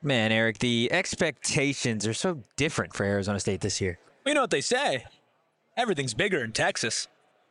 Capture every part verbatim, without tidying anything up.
Man, Eric, the expectations are so different for Arizona State this year. You know what they say. Everything's bigger in Texas.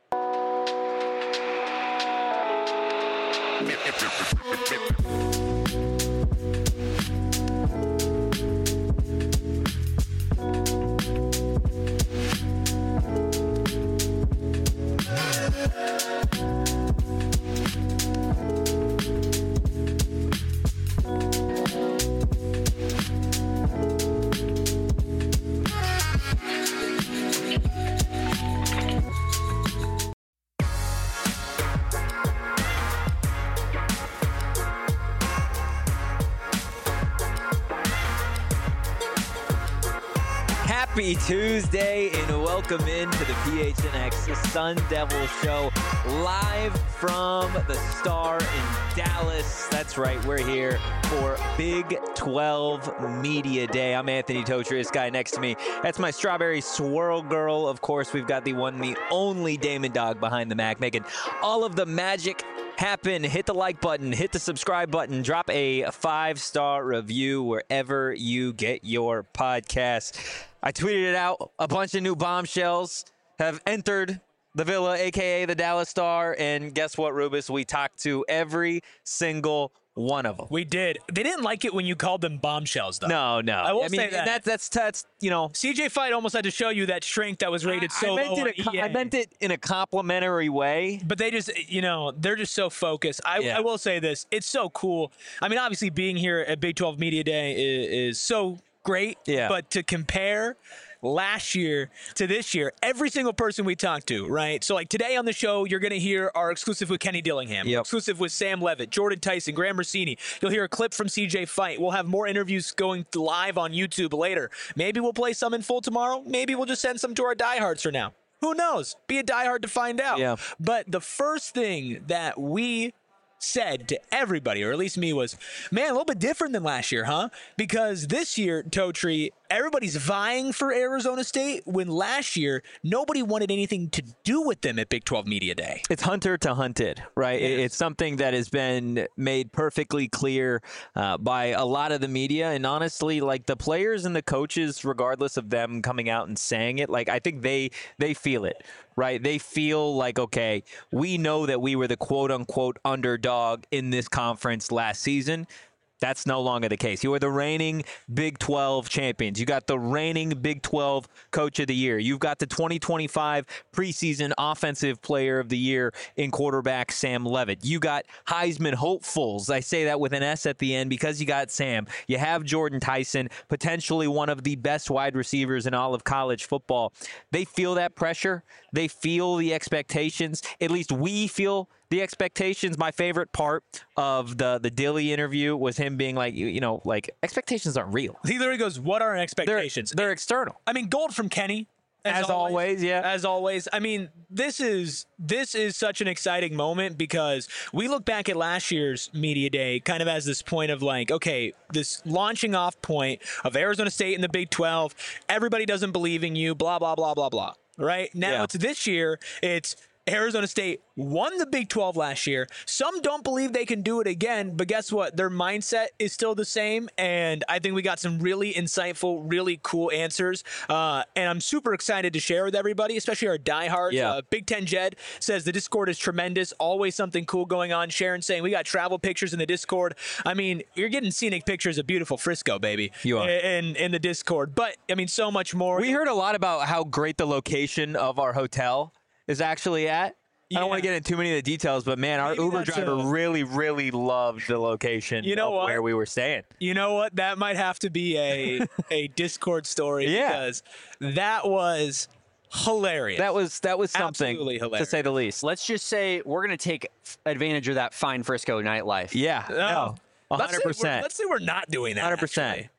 Happy Tuesday and welcome into the P H N X Sun Devil Show live from the Star in Dallas. That's right, we're here for Big twelve Media Day. I'm Anthony Totri, this guy next to me. That's my strawberry swirl girl. Of course, we've got the one, the only Damon Dog behind the Mac, making all of the magic happen. Hit the like button, hit the subscribe button, drop a five-star review wherever you get your podcast. I tweeted it out. A bunch of new bombshells have entered the Villa, a k a the Dallas Star, and guess what, Rubus? We talked to every single one of them. We did. They didn't like it when you called them bombshells, though. No, no. I will I mean, say that. That's, that's, that's, you know. C J Fight almost had to show you that strength that was rated I, so I meant low it on a, E A. I meant it in a complimentary way. But they just, you know, they're just so focused. I, Yeah. I will say this. It's so cool. I mean, obviously being here at Big twelve Media Day is, is so great. Yeah. But to compare last year to this year, every single person we talked to, right? So like today on the show, you're going to hear our exclusive with Kenny Dillingham, Yep. exclusive with Sam Levitt, Jordan Tyson, Graham Rossini. You'll hear a clip from C J Fight. We'll have more interviews going live on YouTube later. Maybe we'll play some in full tomorrow. Maybe we'll just send some to our diehards for now. Who knows? Be a diehard to find out. Yeah. But the first thing that we said to everybody, or at least me, was, man, a little bit different than last year, huh? Because this year, Totri, everybody's vying for Arizona State, when last year, nobody wanted anything to do with them at Big twelve Media Day. It's hunter to hunted, right? Yes. It's something that has been made perfectly clear uh, by a lot of the media. And honestly, like the players and the coaches, regardless of them coming out and saying it, like I think they they feel it, right? They feel like, okay, we know that we were the quote unquote underdog in this conference last season. That's no longer the case. You are the reigning Big twelve champions. You got the reigning Big twelve Coach of the Year. You've got the twenty twenty-five preseason Offensive Player of the Year in quarterback Sam Levitt. You got Heisman hopefuls. I say that with an S at the end because you got Sam. You have Jordan Tyson, potentially one of the best wide receivers in all of college football. They feel that pressure. They feel the expectations. At least we feel the expectations. My favorite part of the the Dilly interview was him being like, you, you know, like expectations aren't real. He literally goes, what are our They're, expectations? they're external. I mean, gold from Kenny. As always, yeah. As always. I mean, this is this is such an exciting moment because we look back at last year's Media Day kind of as this point of like, okay, this launching off point of Arizona State in the Big twelve. Everybody doesn't believe in you, blah, blah, blah, blah, blah. Right? Now Yeah. it's this year, it's Arizona State won the Big twelve last year. Some don't believe they can do it again, but guess what? Their mindset is still the same, and I think we got some really insightful, really cool answers, uh, and I'm super excited to share with everybody, especially our diehards. Yeah. Uh, Big Ten Jed says the Discord is tremendous, always something cool going on. Sharon saying we got travel pictures in the Discord. I mean, you're getting scenic pictures of beautiful Frisco, baby. You are. In, in the Discord, but, I mean, so much more. We heard a lot about how great the location of our hotel is actually at. I don't want to Yeah. get into too many of the details, but man, our Maybe Uber that's driver a- really, really loved the location You know of what? where we were staying. You know what? That might have to be a a Discord story Yeah. because that was hilarious. That was that was something, Absolutely to hilarious. say the least. Let's just say we're going to take advantage of that fine Frisco nightlife. Yeah, Oh. no, one Let's hundred say we're- percent. Let's say we're not doing that. one hundred percent. actually.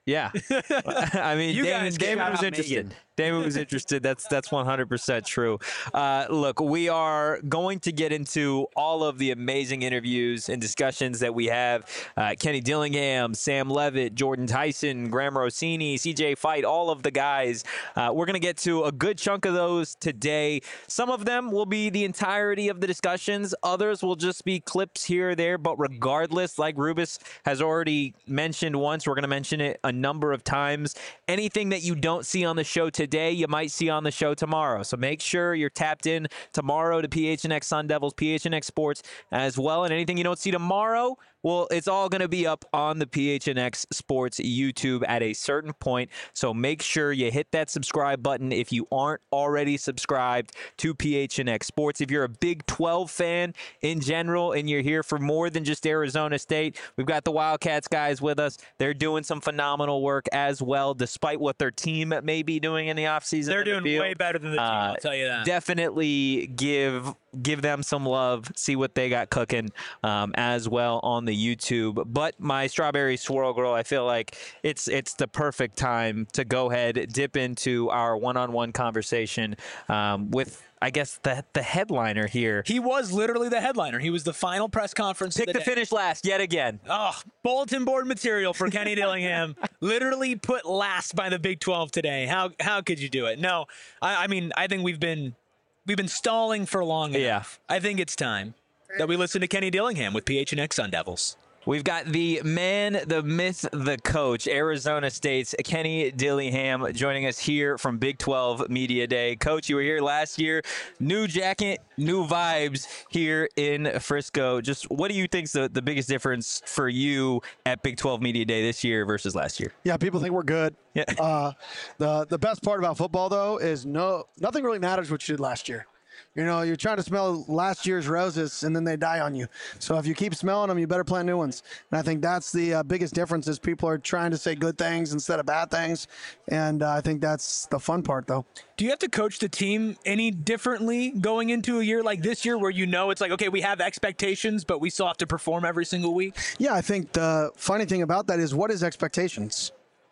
Yeah. I mean, You Damon, guys can Damon shout was out interested. Megan. Damon was interested. That's that's one hundred percent true. Uh, look, we are going to get into all of the amazing interviews and discussions that we have. Uh, Kenny Dillingham, Sam Levitt, Jordan Tyson, Graham Rossini, C J Fight, all of the guys. Uh, we're going to get to a good chunk of those today. Some of them will be the entirety of the discussions. Others will just be clips here or there. But regardless, like Rubus has already mentioned once, we're going to mention it a number of times. Anything that you don't see on the show today, you might see on the show tomorrow. So make sure you're tapped in tomorrow to P H N X Sun Devils, P H N X Sports as well. And anything you don't see tomorrow, well, it's all going to be up on the P H N X Sports YouTube at a certain point. So make sure you hit that subscribe button if you aren't already subscribed to P H N X Sports. If you're a Big twelve fan in general and you're here for more than just Arizona State, we've got the Wildcats guys with us. They're doing some phenomenal work as well, despite what their team may be doing in the offseason. They're in the doing field. way better than the team, Uh, I'll tell you that. Definitely give give them some love, see what they got cooking um, as well on the YouTube. But my Strawberry Swirl Girl, I feel like it's it's the perfect time to go ahead, dip into our one-on-one conversation um, with, I guess, the the headliner here. He was literally the headliner. He was the final press conference. Pick of the the day. finish last yet again. Oh, bulletin board material for Kenny Dillingham. Literally put last by the Big twelve today. How how could you do it? No, I, I mean I think we've been we've been stalling for long enough. Yeah. I think it's time that we listen to Kenny Dillingham with P H N X Sun Devils. We've got the man, the myth, the coach, Arizona State's Kenny Dillingham joining us here from Big twelve Media Day. Coach, you were here last year. New jacket, new vibes here in Frisco. Just what do you think's the, the biggest difference for you at Big twelve Media Day this year versus last year? Yeah, people think we're good. Yeah. Uh, the the best part about football though is no nothing really matters what you did last year. You know, you're trying to smell last year's roses, and then they die on you. So if you keep smelling them, you better plant new ones. And I think that's the uh, biggest difference is people are trying to say good things instead of bad things. And uh, I think that's the fun part, though. Do you have to coach the team any differently going into a year like this year where you know it's like, okay, we have expectations, but we still have to perform every single week? Yeah, I think the funny thing about that is what is expectations?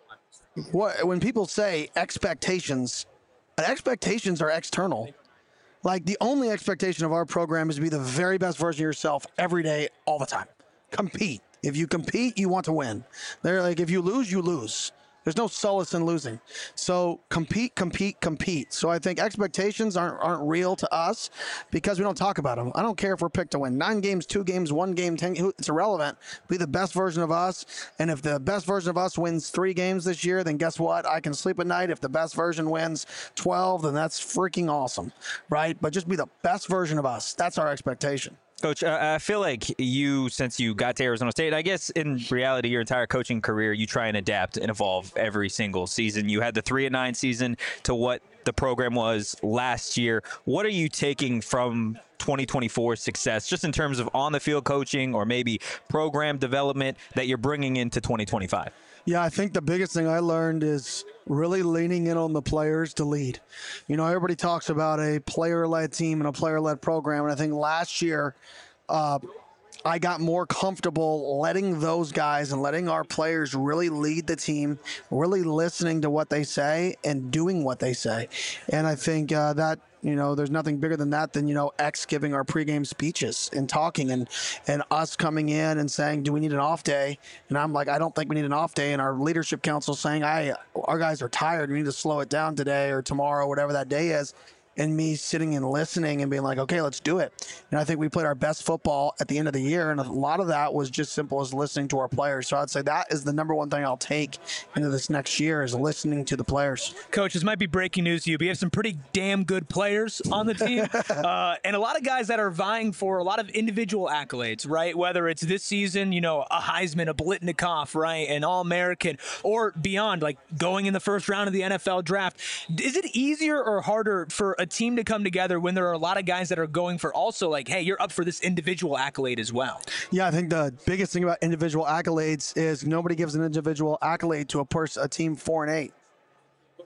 What when people say expectations, expectations are external. Like, the only expectation of our program is to be the very best version of yourself every day, all the time. Compete. If you compete, you want to win. They're like, if you lose, you lose. There's no solace in losing. So compete, compete, compete. So I think expectations aren't aren't real to us because we don't talk about them. I don't care if we're picked to win nine games, two games, one game, ten. It's irrelevant. Be the best version of us. And if the best version of us wins three games this year, then guess what? I can sleep at night. If the best version wins twelve, then that's freaking awesome, right? But just be the best version of us. That's our expectation. Coach, uh, I feel like you, since you got to Arizona State, I guess in reality, your entire coaching career, you try and adapt and evolve every single season. You had the three and nine season to what the program was last year. What are you taking from twenty twenty-four success, just in terms of on the field coaching or maybe program development that you're bringing into twenty twenty-five? Yeah, I think the biggest thing I learned is really leaning in on the players to lead. You know, everybody talks about a player-led team and a player-led program, and I think last year uh, I got more comfortable letting those guys and letting our players really lead the team, really listening to what they say and doing what they say. And I think uh, that, you know, there's nothing bigger than that than, you know, X giving our pregame speeches and talking and, and us coming in and saying, do we need an off day? And I'm like, I don't think we need an off day. And our leadership council saying, I, our guys are tired. We need to slow it down today or tomorrow, whatever that day is. And me sitting and listening and being like, okay, let's do it. And I think we played our best football at the end of the year. And a lot of that was just simple as listening to our players. So I'd say that is the number one thing I'll take into this next year is listening to the players. Coach, this might be breaking news to you, but you have some pretty damn good players on the team. uh, and a lot of guys that are vying for a lot of individual accolades, right? Whether it's this season, you know, a Heisman, a Blitnikoff, right? An All-American, or beyond, like going in the first round of the N F L draft. Is it easier or harder for a team to come together when there are a lot of guys that are going for also like, hey, you're up for this individual accolade as well? Yeah, I think the biggest thing about individual accolades is nobody gives an individual accolade to a person, a team four and eight.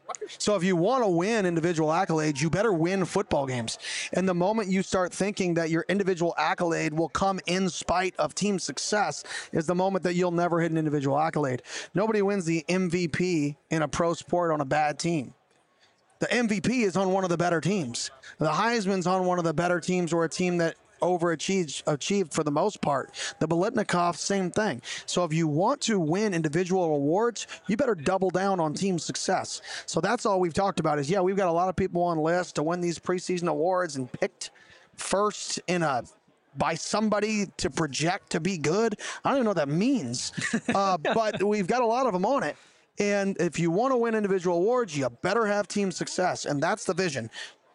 So if you want to win individual accolades, you better win football games. And the moment you start thinking that your individual accolade will come in spite of team success is the moment that you'll never hit an individual accolade. Nobody wins the M V P in a pro sport on a bad team. The M V P is on one of the better teams. The Heisman's on one of the better teams or a team that overachieved achieved for the most part. The Biletnikoff, same thing. So if you want to win individual awards, you better double down on team success. So that's all we've talked about is, yeah, we've got a lot of people on lists to win these preseason awards and picked first in a by somebody to project to be good. I don't even know what that means. Uh, but we've got a lot of them on it. And if you want to win individual awards, you better have team success. And that's the vision.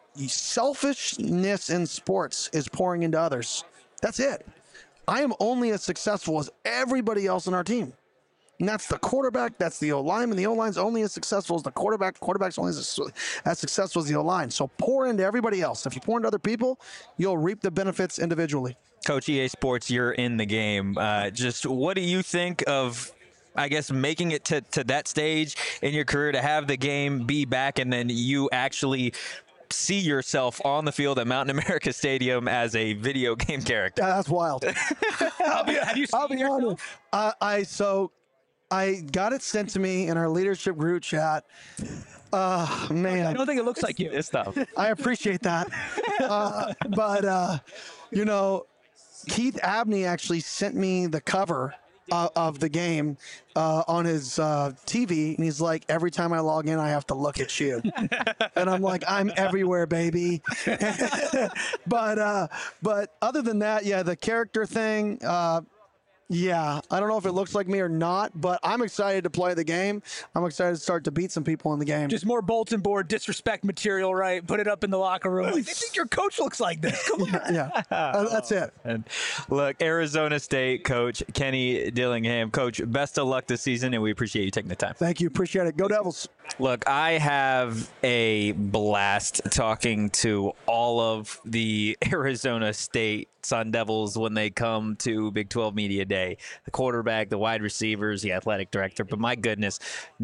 Selfishness in sports is pouring into others. That's it. I am only as successful as everybody else on our team. And that's the quarterback, that's the O-lineman. The O-line's only as successful as the quarterback. Quarterback's only as, as successful as the O-line. So pour into everybody else. If you pour into other people, you'll reap the benefits individually. Coach, E A Sports, you're in the game. Uh, just what do you think of, I guess, making it to, to that stage in your career to have the game be back and then you actually see yourself on the field at Mountain America Stadium as a video game character? Yeah, that's wild. Have you, have you I'll seen be yourself? honest. I, I so I got it sent to me in our leadership group chat. Uh, man, I don't think it looks like you. This stuff. I appreciate that. Uh, but, uh, you know, Keith Abney actually sent me the cover uh, of the game uh, on his uh, T V. And he's like, every time I log in, I have to look at you. And I'm like, I'm everywhere, baby. but, uh, but other than that, yeah, the character thing, uh, yeah, I don't know if it looks like me or not, but I'm excited to play the game. I'm excited to start to beat some people in the game. Just more bulletin board disrespect material, right? Put it up in the locker room. Like, they think your coach looks like this. Come on. yeah, uh, that's it. And look, Arizona State coach Kenny Dillingham. Coach, best of luck this season, and we appreciate you taking the time. Thank you. Appreciate it. Go Devils. Look, I have a blast talking to all of the Arizona State Sun Devils when they come to Big twelve Media Day. The quarterback, the wide receivers, the athletic director. But my goodness,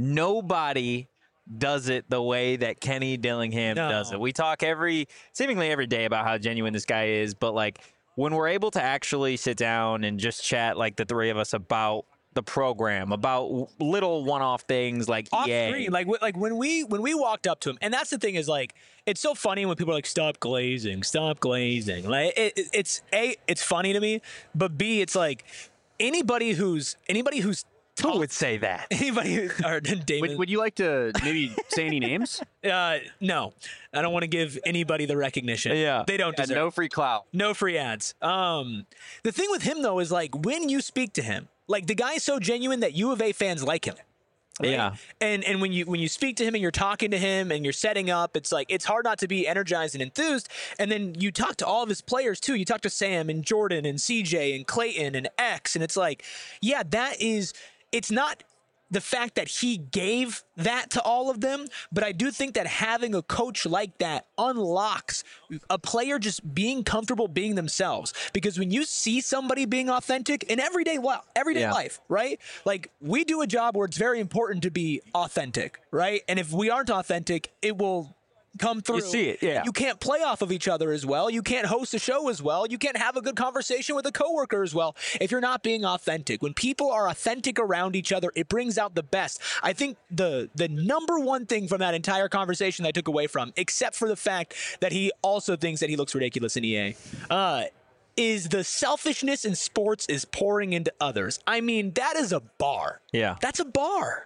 nobody does it the way that Kenny Dillingham No. does it. We talk every, seemingly every day about how genuine this guy is, but like when we're able to actually sit down and just chat like the three of us about the program, about little one-off things like Off E A. screen, like wh- like when we when we walked up to him, and that's the thing is like it's so funny when people are like stop glazing, stop glazing. Like it, it, it's a it's funny to me, but B it's like anybody who's anybody who's Who would say that? anybody who, or Damon. Would, would you like to maybe say any names? uh, no, I don't want to give anybody the recognition. Yeah. they don't Yeah, deserve. no free clout. No free ads. Um, the thing with him though is like when you speak to him, like the guy's so genuine that U of A fans like him. Right? Yeah. And and when you when you speak to him and you're talking to him and you're setting up, it's like it's hard not to be energized and enthused. And then you talk to all of his players too. You talk to Sam and Jordan and C J and Clayton and X, and it's like, yeah, that is. It's not the fact that he gave that to all of them, but I do think that having a coach like that unlocks a player just being comfortable being themselves. Because when you see somebody being authentic in everyday life, everyday Yeah. life, right? Like we do a job where it's very important to be authentic, right? And if we aren't authentic, it will come through. see it, yeah. You can't play off of each other as well. You can't host a show as well. You can't have a good conversation with a coworker as well if you're not being authentic. When people are authentic around each other, it brings out the best. I think the the number one thing from that entire conversation that I took away from, except for the fact that he also thinks that he looks ridiculous in E A, uh, is the selfishness in sports is pouring into others. I mean, that is a bar. Yeah. That's a bar.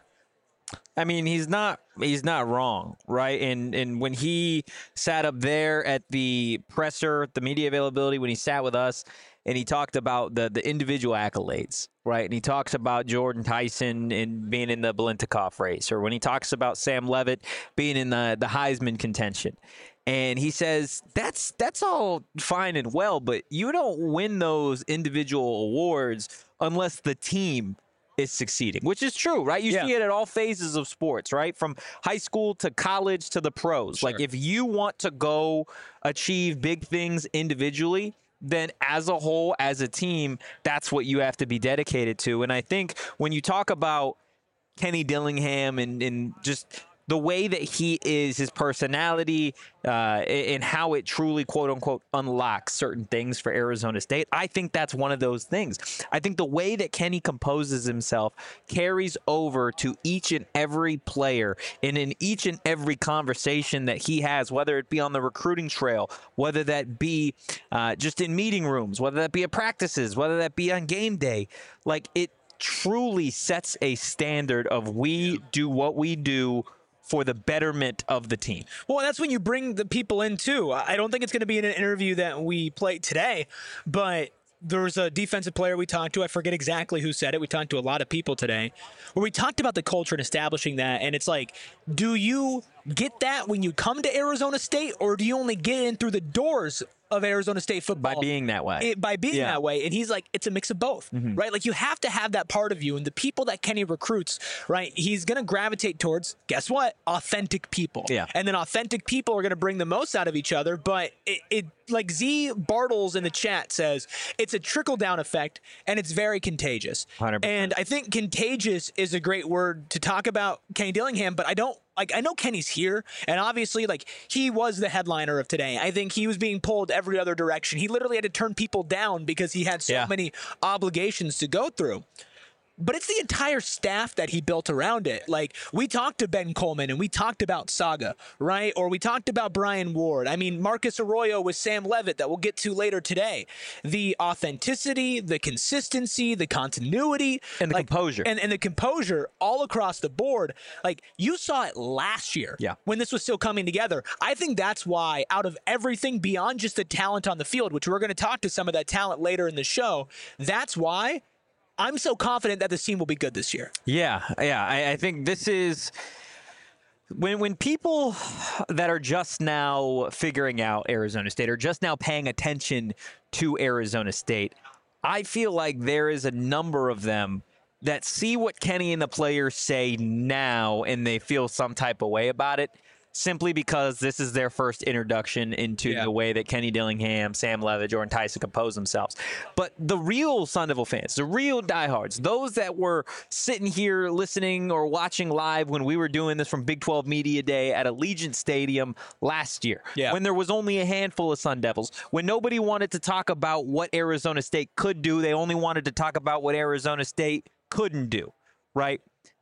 I mean, he's not he's not wrong, right? And and when he sat up there at the presser, the media availability, when he sat with us and he talked about the the individual accolades, right? And he talks about Jordan Tyson and being in the Biletnikoff race, or when he talks about Sam Levitt being in the the Heisman contention. And he says, that's that's all fine and well, but you don't win those individual awards unless the team is succeeding, which is true, right? You Yeah. see it at all phases of sports, right? From high school to college to the pros. Like if you want to go achieve big things individually, then as a whole, as a team, that's what you have to be dedicated to. And I think when you talk about Kenny Dillingham and, and just the way that he is, his personality, uh, and how it truly, quote unquote, unlocks certain things for Arizona State. I think that's one of those things. I think the way that Kenny composes himself carries over to each and every player and in each and every conversation that he has, whether it be on the recruiting trail, whether that be uh, just in meeting rooms, whether that be at practices, whether that be on game day. Like, it truly sets a standard of we do what we do for the betterment of the team. Well, that's when you bring the people in too. I don't think it's going to be in an interview that we played today, but there was a defensive player we talked to. I forget exactly who said it. We talked to a lot of people today where we talked about the culture and establishing that. And it's like, do you get that when you come to Arizona State, or do you only get in through the doors of Arizona State football By being that way. It, by being Yeah. that way. And he's like, it's a mix of both, Mm-hmm. right? Like, you have to have that part of you. And the people that Kenny recruits, right, he's going to gravitate towards, guess what? Authentic people. Yeah. And then authentic people are going to bring the most out of each other. But it, it like Z Bartles in the chat says, it's a trickle down effect and it's very contagious. one hundred percent. And I think contagious is a great word to talk about Kenny Dillingham, but I don't like, I know Kenny's here, and obviously, like, he was the headliner of today. I think he was being pulled every other direction. He literally had to turn people down because he had so Yeah. many obligations to go through. But it's the entire staff that he built around it. Like, we talked to Ben Coleman and we talked about Saga, right? Or we talked about Brian Ward. I mean, Marcus Arroyo with Sam Levitt that we'll get to later today. The authenticity, the consistency, the continuity. And the like, composure. And, and the composure all across the board. Like, you saw it last year Yeah. when this was still coming together. I think that's why, out of everything beyond just the talent on the field, which we're going to talk to some of that talent later in the show, that's why I'm so confident that this team will be good this year. Yeah, yeah. I, I think this is when when people that are just now figuring out Arizona State or just now paying attention to Arizona State, I feel like there is a number of them that see what Kenny and the players say now and they feel some type of way about it, simply because this is their first introduction into Yeah. the way that Kenny Dillingham, Sam Levitt, Jordan Tyson compose themselves. But the real Sun Devil fans, the real diehards, those that were sitting here listening or watching live when we were doing this from Big twelve Media Day at Allegiant Stadium last year, Yeah. when there was only a handful of Sun Devils, when nobody wanted to talk about what Arizona State could do, they only wanted to talk about what Arizona State couldn't do, right?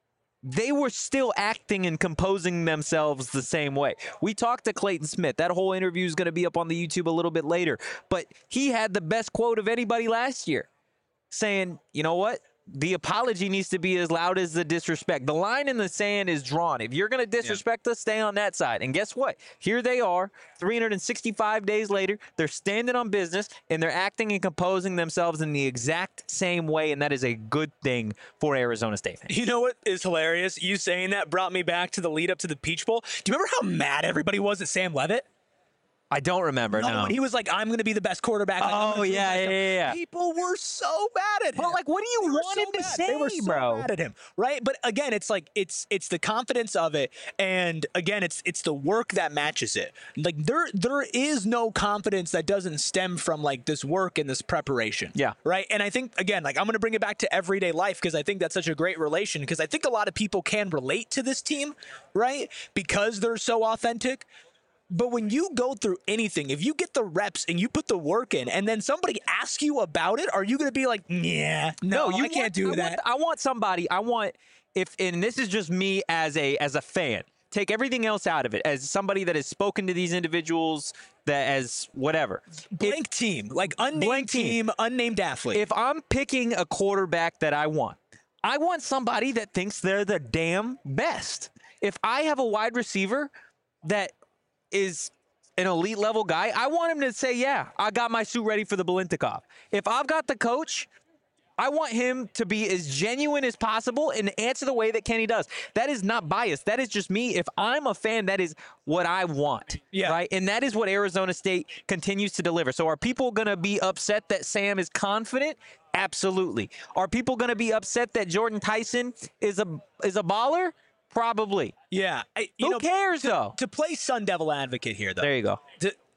They were still acting and composing themselves the same way. We talked to Clayton Smith. That whole interview is going to be up on the YouTube a little bit later. But he had the best quote of anybody last year, saying, you know what? The apology needs to be as loud as the disrespect. The line in the sand is drawn. If you're going to disrespect us, stay on that side. And guess what? Here they are, three hundred sixty-five days later. They're standing on business, and they're acting and composing themselves in the exact same way, and that is a good thing for Arizona State fans. You know what is hilarious? You saying that brought me back to the lead up to the Peach Bowl. Do you remember how mad everybody was at Sam Levitt? I don't remember, no. When he was like, I'm going to be the best quarterback. Like, I'm Oh, gonna prove yeah, myself. yeah, yeah, yeah. People were so mad at him. But, like, what do you They were want so him to mad. say, They were so bro? mad at him, right? But again, it's like it's it's the confidence of it, and again, it's it's the work that matches it. Like there there is no confidence that doesn't stem from like this work and this preparation. Yeah. Right. And I think again, like I'm going to bring it back to everyday life because I think that's such a great relation. Because I think a lot of people can relate to this team, right? Because they're so authentic. But when you go through anything, if you get the reps and you put the work in and then somebody asks you about it, are you going to be like, yeah, no, you I can't want- do I that? Want, I want somebody. I want if, and this is just me as a as a fan. Take everything else out of it. As somebody that has spoken to these individuals, that as whatever. Blank team, like unnamed Blank team. team, unnamed athlete. If I'm picking a quarterback that I want, I want somebody that thinks they're the damn best. If I have a wide receiver that is an elite level guy, I want him to say, yeah, I got my suit ready for the Balintikov. If I've got the coach, I want him to be as genuine as possible and answer the way that Kenny does. That is not biased. That is just me. If I'm a fan, that is what I want. Yeah. Right? And that is what Arizona State continues to deliver. So are people going to be upset that Sam is confident? Absolutely. Are people going to be upset that Jordan Tyson is a is a baller? Probably. yeah. I, you Who know, cares, to, though? To play Sun Devil advocate here, though. There you go. to,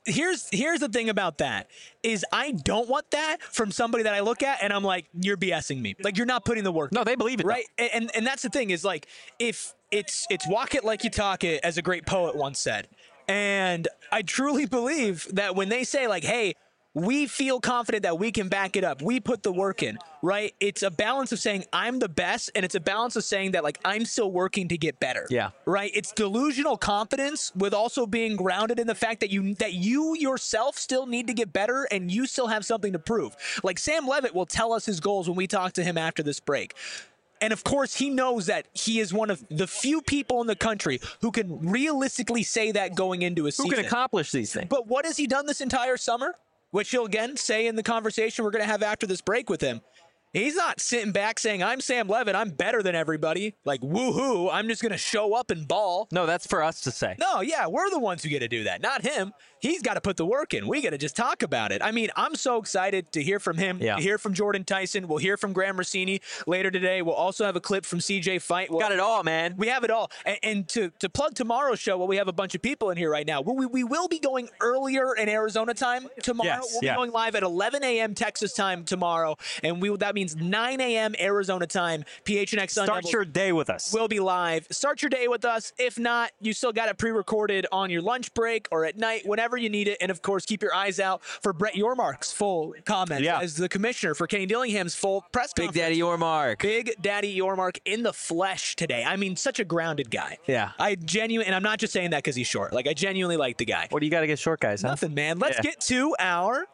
here's here's the thing about that is I don't want that from somebody that I look at and I'm like, you're BSing me. Like, you're not putting the work. No, in, they believe it, right? And, and and that's the thing is like, if it's it's walk it like you talk it, as a great poet once said, and I truly believe that when they say like, hey, we feel confident that we can back it up, we put the work in, right? It's a balance of saying I'm the best, and it's a balance of saying that like I'm still working to get better. Yeah. Right? It's delusional confidence with also being grounded in the fact that you that you yourself still need to get better and you still have something to prove. Like Sam Levitt will tell us his goals when we talk to him after this break. And of course, he knows that he is one of the few people in the country who can realistically say that going into a season. Who can accomplish these things? But what has he done this entire summer? Which he'll again say in the conversation we're going to have after this break with him. He's not sitting back saying, I'm Sam Levitt, I'm better than everybody. Like, woohoo, I'm just going to show up and ball. No, that's for us to say. No, yeah, we're the ones who get to do that, not him. He's got to put the work in. We got to just talk about it. I mean, I'm so excited to hear from him, Yeah. to hear from Jordan Tyson. We'll hear from Graham Rossini later today. We'll also have a clip from C J Fight. We'll Got it all, man. we have it all. And, and to, to plug tomorrow's show, well, we have a bunch of people in here right now. We, we will be going earlier in Arizona time tomorrow. Yes, we'll yeah. be going live at eleven a.m. Texas time tomorrow. And we that means nine a.m. Arizona time. P H N X Sun Start Devils your day with us. will be live. Start your day with us. If not, you still got it pre-recorded on your lunch break or at night, whenever you need it. And of course, keep your eyes out for Brett Yormark's full comments Yeah. as the commissioner for Kenny Dillingham's full press Big conference. Daddy Yormark. Big Daddy Yormark in the flesh today. I mean, such a grounded guy. Yeah. I genuinely, and I'm not just saying that because he's short. Like, I genuinely like the guy. What do you got to get short guys, huh? Nothing, man. Let's Yeah. get to our.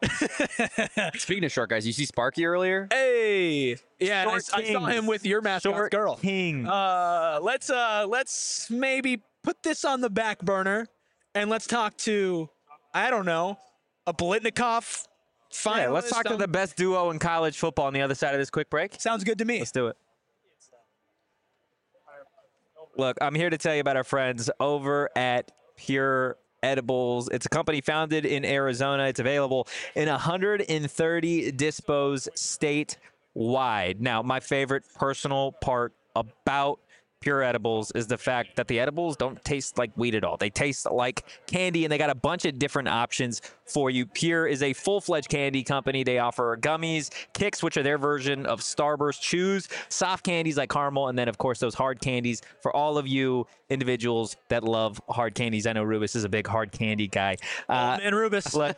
Speaking of short guys, you see Sparky earlier? Hey. Yeah, and I, Short I saw Kings. him with your mascot Short girl. King. Uh, let's uh, let's maybe put this on the back burner, and let's talk to, I don't know, a Blitnikoff finalist. Yeah, let's talk to on- the best duo in college football on the other side of this quick break. Sounds good to me. Let's do it. Look, I'm here to tell you about our friends over at Pure Edibles. It's a company founded in Arizona. It's available in one hundred thirty dispos statewide. Now, my favorite personal part about Pure Edibles is the fact that the edibles don't taste like weed at all. They taste like candy, and they got a bunch of different options for you. Pure is a full-fledged candy company. They offer gummies, kicks, which are their version of Starburst, chews, soft candies like caramel, and then, of course, those hard candies for all of you individuals that love hard candies. I know Rubus is a big hard candy guy. Uh, and Rubus. Look,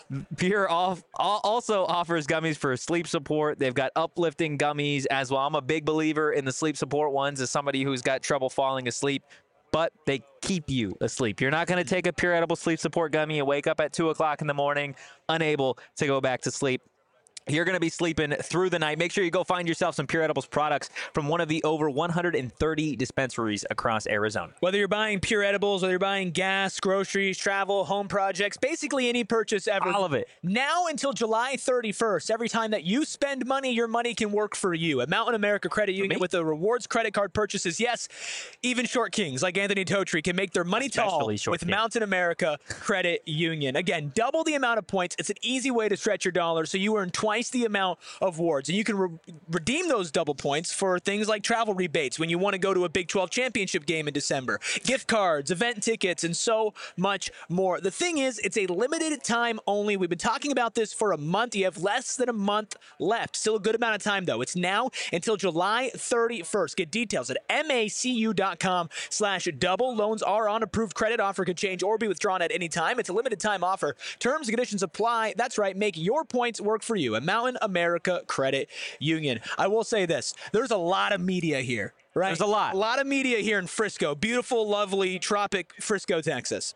Pure off, al- also offers gummies for sleep support. They've got uplifting gummies as well. I'm a big believer in the sleep support ones as somebody who's got trouble falling asleep, but they keep you asleep. You're not going to take a Pure Edible sleep support gummy and wake up at two o'clock in the morning unable to go back to sleep. You're going to be sleeping through the night. Make sure you go find yourself some Pure Edibles products from one of the over one hundred thirty dispensaries across Arizona. Whether you're buying Pure Edibles, whether you're buying gas, groceries, travel, home projects, basically any purchase ever. All of it. Now until July thirty-first, every time that you spend money, your money can work for you. At Mountain America Credit Union me? with the rewards credit card purchases, yes, even short kings like Anthony Totri can make their money tall Especially short with king. Mountain America Credit Union. Again, double the amount of points. It's an easy way to stretch your dollars so you earn twice the amount of awards. And you can re- redeem those double points for things like travel rebates when you want to go to a Big twelve championship game in December, gift cards, event tickets, and so much more. The thing is, it's a limited time only. We've been talking about this for a month. You have less than a month left. Still a good amount of time, though. It's now until July thirty-first. Get details at macu.com slash double. Loans are on approved credit. Offer could change or be withdrawn at any time. It's a limited time offer. Terms and conditions apply. That's right. Make your points work for you at Mountain America Credit Union. I will say this. There's a lot of media here, right? There's a lot. A lot of media here in Frisco. Beautiful, lovely, tropic Frisco, Texas.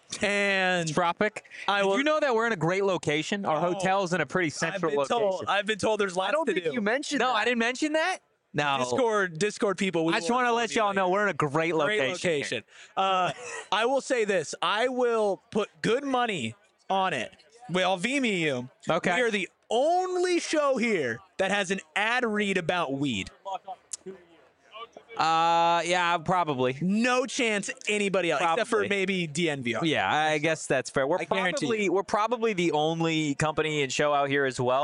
And Tropic. I Did will- you know that we're in a great location? Our Oh, hotel's in a pretty I've central been location. told. I've been told there's lots I don't to think do. you mentioned No, that. I didn't mention that. No. Discord, Discord people. We I just will want to inform let you y'all later. know we're in a great location. Great location. Uh, I will say this. I will put good money on it. Well, V M E U. Okay. We are the only show here that has an ad read about weed. Uh, yeah, probably. No chance anybody else, except for Probably. maybe D N V R. Yeah, I guess that's fair. We're I guarantee probably we're probably the only company and show out here as well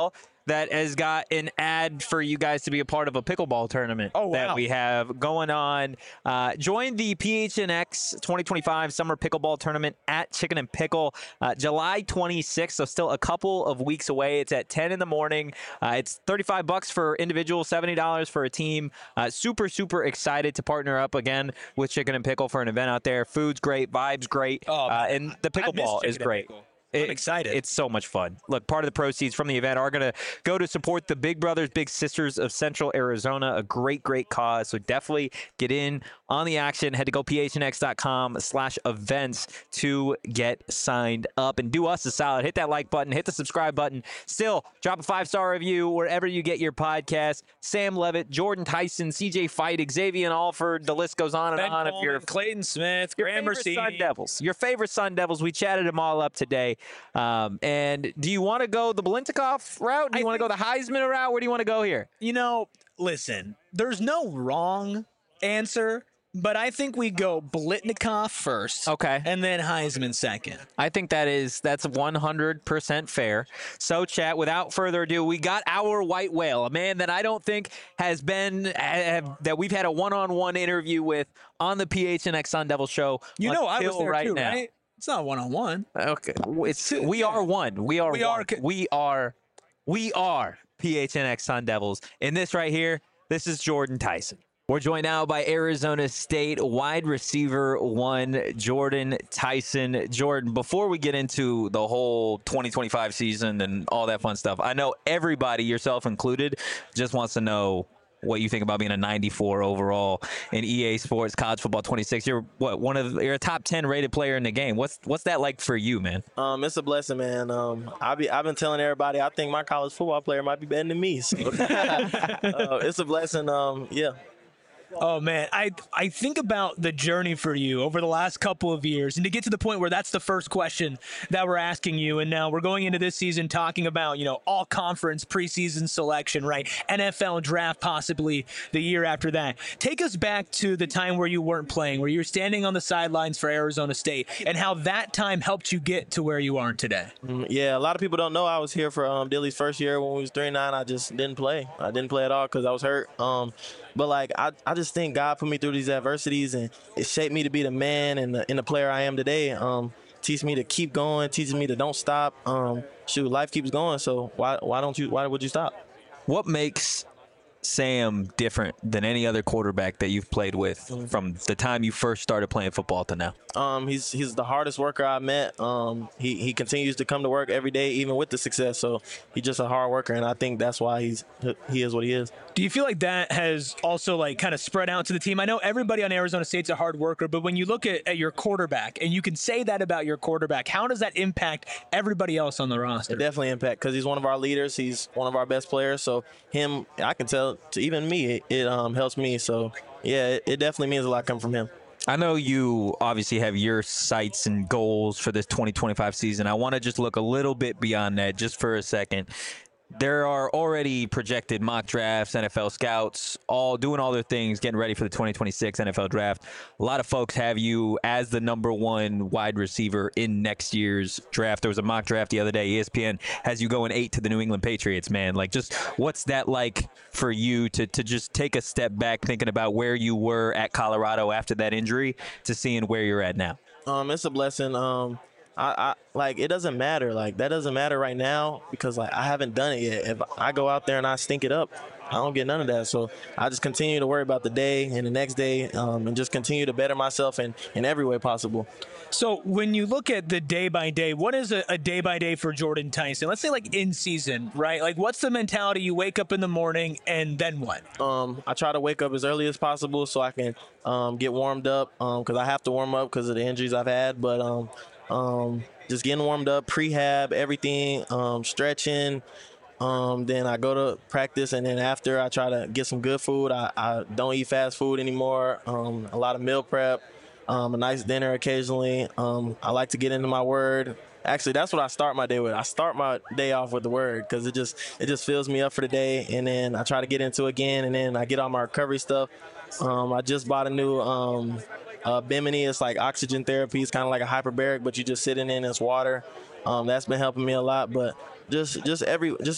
that has got an ad for you guys to be a part of a pickleball tournament Oh, that wow. we have going on. Uh, join the P H N X twenty twenty-five Summer Pickleball Tournament at Chicken and Pickle, uh, July twenty-sixth, so still a couple of weeks away. It's at ten in the morning. Uh, it's thirty-five bucks for individual, seventy dollars for a team. Uh, super, super excited to partner up again with Chicken and Pickle for an event out there. Food's great, vibes great, Oh, uh, and the I miss pickleball Chicken is and great. Pickle. It- I'm excited. It's so much fun. Look, part of the proceeds from the event are going to go to support the Big Brothers Big Sisters of Central Arizona, a great, great cause. So definitely get in on the action. Head to go p h n x dot com slash events to get signed up. And do us a solid. Hit that like button. Hit the subscribe button. Still, drop a five-star review wherever you get your podcast. Sam Levitt, Jordan Tyson, C J Fight, Xavier Alford. The list goes on and Ben on. If Coleman, you're Clayton Smith, your Graham favorite Sun Mercini. Devils. Your favorite Sun Devils. We chatted them all up today. Um, and do you want to go the Blintikoff route? Do you I want to go the Heisman route? Where do you want to go here? You know, listen, there's no wrong answer, but I think we go Blitnikoff first. Okay. And then Heisman second. I think that is that's one hundred percent fair. So, chat, without further ado, we got our white whale, a man that I don't think has been have, that we've had a one-on-one interview with on the P H N X Sun Devil show. You know, I was until there right too, now. right? It's not one-on-one. Okay, it's we are one. We are We one. are co- we are we are P H N X Sun Devils. And this right here, this is Jordan Tyson. We're joined now by Arizona State wide receiver one, Jordan Tyson. Jordan, before we get into the whole twenty twenty-five season and all that fun stuff, I know everybody, yourself included, just wants to know what you think about being a ninety-four overall in E A Sports College Football twenty-six. You're what one of the, you're a top ten rated player in the game. What's what's that like for you, man? Um, it's a blessing, man. Um, I be I've been telling everybody I think my college football player might be better than me. So. uh, it's a blessing. Um, yeah. Oh man, I I think about the journey for you over the last couple of years, and to get to the point where that's the first question that we're asking you, and now we're going into this season talking about you know all conference preseason selection, right? N F L draft possibly the year after that. Take us back to the time where you weren't playing, where you were standing on the sidelines for Arizona State, and how that time helped you get to where you are today. Mm, Yeah, a lot of people don't know I was here for um, Dilly's first year when we was three and nine. I just didn't play. I didn't play at all because I was hurt. Um, but like I, I just think God put me through these adversities and it shaped me to be the man and the, and the player I am today. Um, teach me to keep going, teaches me to don't stop. Um, shoot, life keeps going. So why why don't you why would you stop? What makes Sam different than any other quarterback that you've played with from the time you first started playing football to now? Um, he's he's the hardest worker I met. Um, he he continues to come to work every day, even with the success. So he's just a hard worker, and I think that's why he's he is what he is. Do you feel like that has also like kind of spread out to the team? I know everybody on Arizona State's a hard worker, but when you look at, at your quarterback and you can say that about your quarterback, how does that impact everybody else on the roster? It definitely impact because he's one of our leaders. He's one of our best players. So him, I can tell to even me, it, it um, helps me. So yeah, it, it definitely means a lot coming from him. I know you obviously have your sights and goals for this twenty twenty-five season. I want to just look a little bit beyond that just for a second. There are already projected mock drafts, N F L scouts, all doing all their things, getting ready for the twenty twenty-six N F L draft. A lot of folks have you as the number one wide receiver in next year's draft. There was a mock draft the other day. E S P N has you going eight to the New England Patriots, man. Like, just what's that like for you to, to just take a step back thinking about where you were at Colorado after that injury to seeing where you're at now? Um, it's a blessing. Um, I, I like it doesn't matter. Like that doesn't matter right now because like I haven't done it yet. If I go out there and I stink it up, I don't get none of that. So I just continue to worry about the day and the next day, um, and just continue to better myself in, in every way possible. So when you look at the day by day, what is a, a day by day for Jordan Tyson? Let's say like in season, right? Like what's the mentality? You wake up in the morning and then what? Um, I try to wake up as early as possible so I can um, get warmed up because I have to warm up because of the injuries I've had. But um, um, just getting warmed up, prehab, everything, um, stretching. Um, then I go to practice, and then after I try to get some good food. I, I don't eat fast food anymore. Um, a lot of meal prep, um, a nice dinner occasionally. Um, I like to get into my word. Actually, that's what I start my day with. I start my day off with the word because it just it just fills me up for the day, and then I try to get into it again, and then I get all my recovery stuff. Um, I just bought a new um, uh, Bimini. It's like oxygen therapy. It's kind of like a hyperbaric, but you just sitting in this water. Um, that's been helping me a lot. But just just every just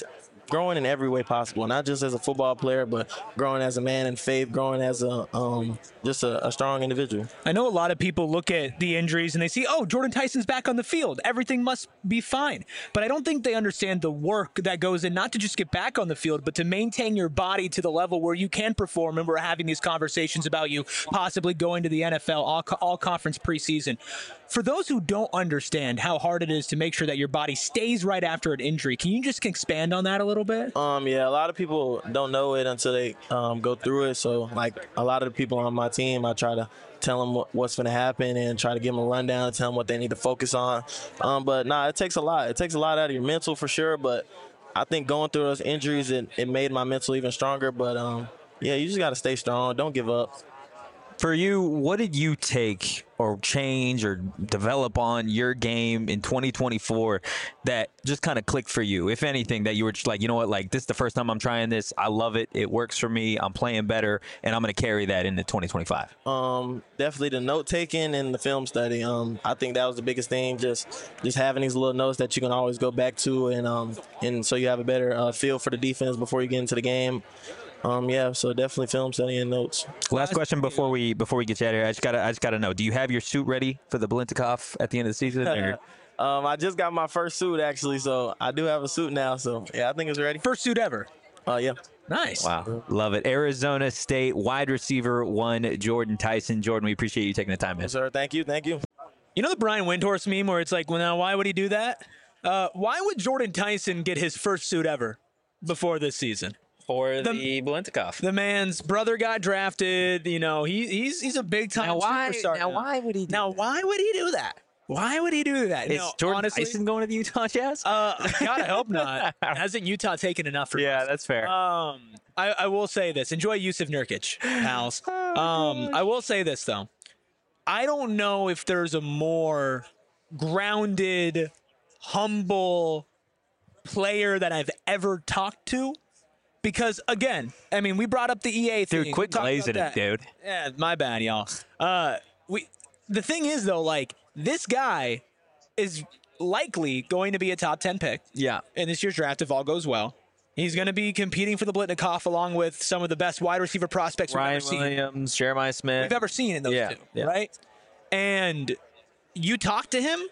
growing in every way possible, not just as a football player, but growing as a man in faith, growing as a um, just a, a strong individual. I know a lot of people look at the injuries and they see, oh, Jordan Tyson's back on the field. Everything must be fine. But I don't think they understand the work that goes in, not to just get back on the field, but to maintain your body to the level where you can perform. And we're having these conversations about you possibly going to the N F L, all, all conference preseason. For those who don't understand how hard it is to make sure that your body stays right after an injury, can you just expand on that a little bit? Um, yeah, a lot of people don't know it until they um, go through it. So, like, a lot of the people on my team, I try to tell them what, what's going to happen and try to give them a rundown and tell them what they need to focus on. Um, but, nah, it takes a lot. It takes a lot out of your mental for sure. But I think going through those injuries, it, it made my mental even stronger. But, um, yeah, you just got to stay strong. Don't give up. For you, what did you take or change or develop on your game in twenty twenty-four that just kind of clicked for you? If anything, that you were just like, you know what, like this is the first time I'm trying this. I love it. It works for me. I'm playing better, and I'm going to carry that into twenty twenty-five. Um, definitely the note taking and the film study. Um, I think that was the biggest thing. Just, just having these little notes that you can always go back to, and um, and so you have a better uh, feel for the defense before you get into the game. Um, yeah, so definitely film study and notes. Last question before we before we get you out of here. I just gotta I just gotta know. Do you have your suit ready for the Biletnikoff at the end of the season? Or? um, I just got my first suit actually, so I do have a suit now. So yeah, I think it's ready. First suit ever. Uh, yeah. Nice. Wow, love it. Arizona State wide receiver one, Jordan Tyson. Jordan, we appreciate you taking the time, man. Yes, sir. Thank you. Thank you. You know the Brian Windhorst meme where it's like, well, now why would he do that? Uh, why would Jordan Tyson get his first suit ever before this season? For The- the, Biletnikoff. The man's brother got drafted. You know, he, he's he's a big time Now why? superstar. Now why would he? Do Now why would he do that? Why would he do that? Is no, Jordan honestly, Tyson going to the Utah Jazz? Uh, God, I hope not. Hasn't Utah taken enough for yeah, us? that's fair. Um, I, I will say this. Enjoy Yusuf Nurkic, pals. Um, I will say this, though. I don't know if there's a more grounded, humble player that I've ever talked to. Because, again, I mean, we brought up the E A thing. Dude, quit We talked glazing about it, that. dude. Yeah, my bad, y'all. Uh, we. The thing is, though, like, this guy is likely going to be a top ten pick Yeah. in this year's draft if all goes well. He's going to be competing for the Biletnikoff along with some of the best wide receiver prospects we've Ryan ever seen. Williams, Jeremiah Smith. We've ever seen in those Yeah, two, yeah. right? And you talk to him,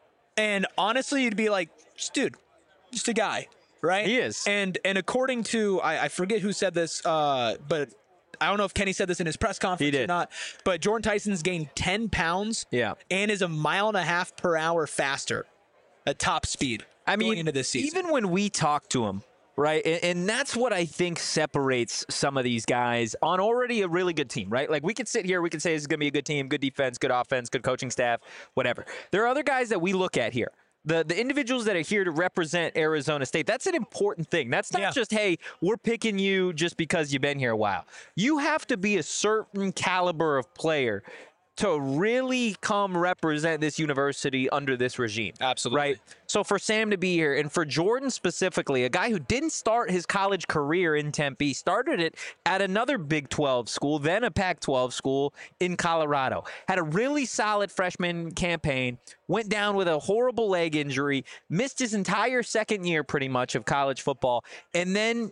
and honestly, you'd be like, just, dude, just a guy, right? He is. And and according to, I, I forget who said this, uh, but I don't know if Kenny said this in his press conference He or did. not, but Jordan Tyson's gained ten pounds Yeah. and is a mile and a half per hour faster at top speed I mean, going into this season. even when we talk to him, right, and, and that's what I think separates some of these guys on already a really good team, right? Like we could sit here, we could say this is going to be a good team, good defense, good offense, good coaching staff, whatever. There are other guys that we look at here. The, the individuals that are here to represent Arizona State, that's an important thing. That's not Yeah. just, hey, we're picking you just because you've been here a while. You have to be a certain caliber of player to really come represent this university under this regime. Absolutely. Right? So for Sam to be here, and for Jordan specifically, a guy who didn't start his college career in Tempe, started it at another Big twelve school, then a Pac twelve school in Colorado. Had a really solid freshman campaign, went down with a horrible leg injury, missed his entire second year pretty much of college football, and then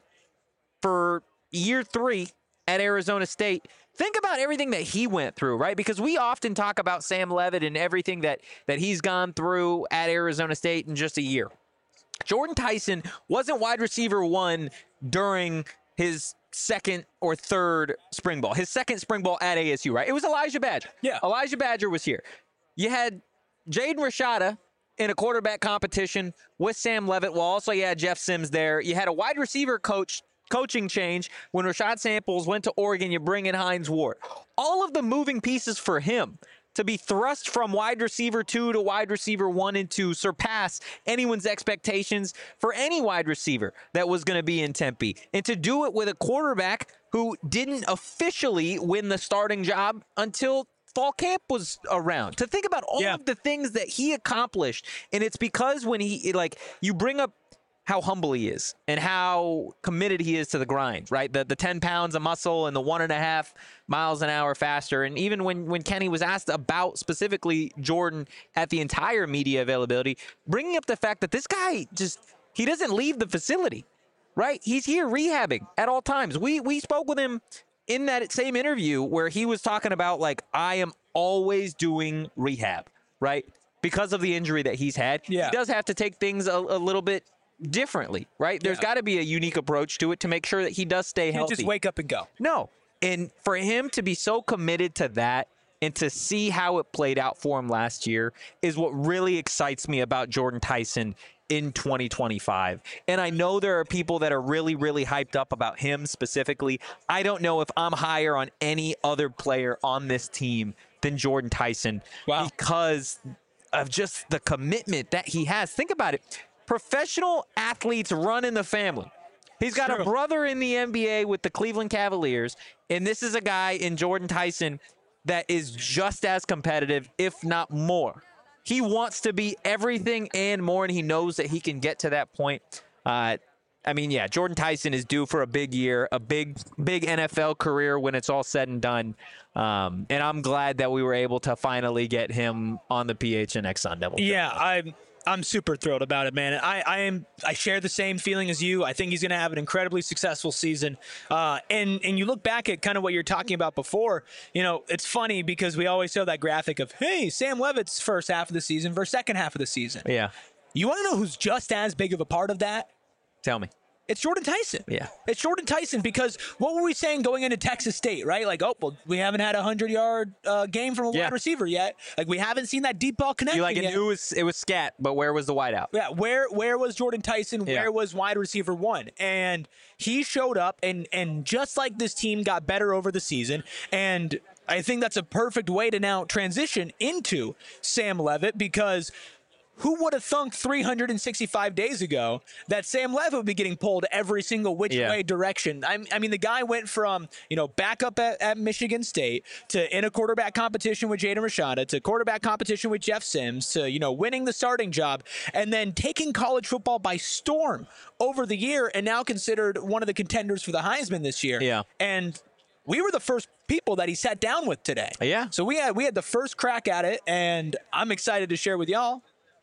for year three at Arizona State, think about everything that he went through, right? Because we often talk about Sam Levitt and everything that, that he's gone through at Arizona State in just a year. Jordan Tyson wasn't wide receiver one during his second or third spring ball. His second spring ball at A S U, right? It was Elijah Badger. Yeah. Elijah Badger was here. You had Jaden Rashada in a quarterback competition with Sam Levitt. Well, also you had Jeff Sims there. You had a wide receiver coach coaching change when Rashad Samples went to Oregon. You bring in Hines Ward. All of the moving pieces for him to be thrust from wide receiver two to wide receiver one and to surpass anyone's expectations for any wide receiver that was going to be in Tempe. And to do it with a quarterback who didn't officially win the starting job until fall camp was around. To think about all Yeah. of the things that he accomplished. And it's because when he, like, you bring up how humble he is and how committed he is to the grind, right? The the ten pounds of muscle and the one and a half miles an hour faster. And even when, when Kenny was asked about specifically Jordan at the entire media availability, bringing up the fact that this guy just, he doesn't leave the facility. right? He's here rehabbing at all times. We we spoke with him in that same interview where he was talking about, like, I am always doing rehab, right? Because of the injury that he's had. Yeah. He does have to take things a, a little bit differently, right? There's Yeah. got to be a unique approach to it to make sure that he does stay Can't healthy. just wake up and go. No. And for him to be so committed to that and to see how it played out for him last year is what really excites me about Jordan Tyson in twenty twenty-five. And I know there are people that are really, really hyped up about him specifically. I don't know if I'm higher on any other player on this team than Jordan Tyson Wow. because of just the commitment that he has. Think about it. Professional athletes run in the family. He's got True. a brother in the N B A with the Cleveland Cavaliers, and this is a guy in Jordan Tyson that is just as competitive, if not more. He wants to be everything and more, and he knows that he can get to that point. Uh, I mean, yeah, Jordan Tyson is due for a big year, a big, big N F L career when it's all said and done. Um, and I'm glad that we were able to finally get him on the P H N X Sun Devil. Yeah, I'm I'm super thrilled about it, man. I, I am I share the same feeling as you. I think he's going to have an incredibly successful season. Uh, and and you look back at kind of what you're talking about before. You know, it's funny because we always show that graphic of, hey, Sam Levitt's first half of the season versus second half of the season. Yeah. You want to know who's just as big of a part of that? Tell me. It's Jordan Tyson. Yeah. It's Jordan Tyson because what were we saying going into Texas State, right? Like, oh, well, we haven't had a hundred-yard uh, game from a Yeah. wide receiver yet. Like, we haven't seen that deep ball connecting You like yet. it, it was it was scat, but where was the wideout? Yeah, where where was Jordan Tyson? Yeah. Where was wide receiver one? And he showed up, and and just like this team got better over the season, and I think that's a perfect way to now transition into Sam Levitt because who would have thunk three hundred sixty-five days ago that Sam Levitt would be getting pulled every single which Yeah. way direction? I, I mean, the guy went from, you know, backup at, at Michigan State to in a quarterback competition with Jaden Rashada to quarterback competition with Jeff Sims to, you know, winning the starting job and then taking college football by storm over the year and now considered one of the contenders for the Heisman this year. Yeah. And we were the first people that he sat down with today. Yeah. So we had we had the first crack at it, and I'm excited to share with y'all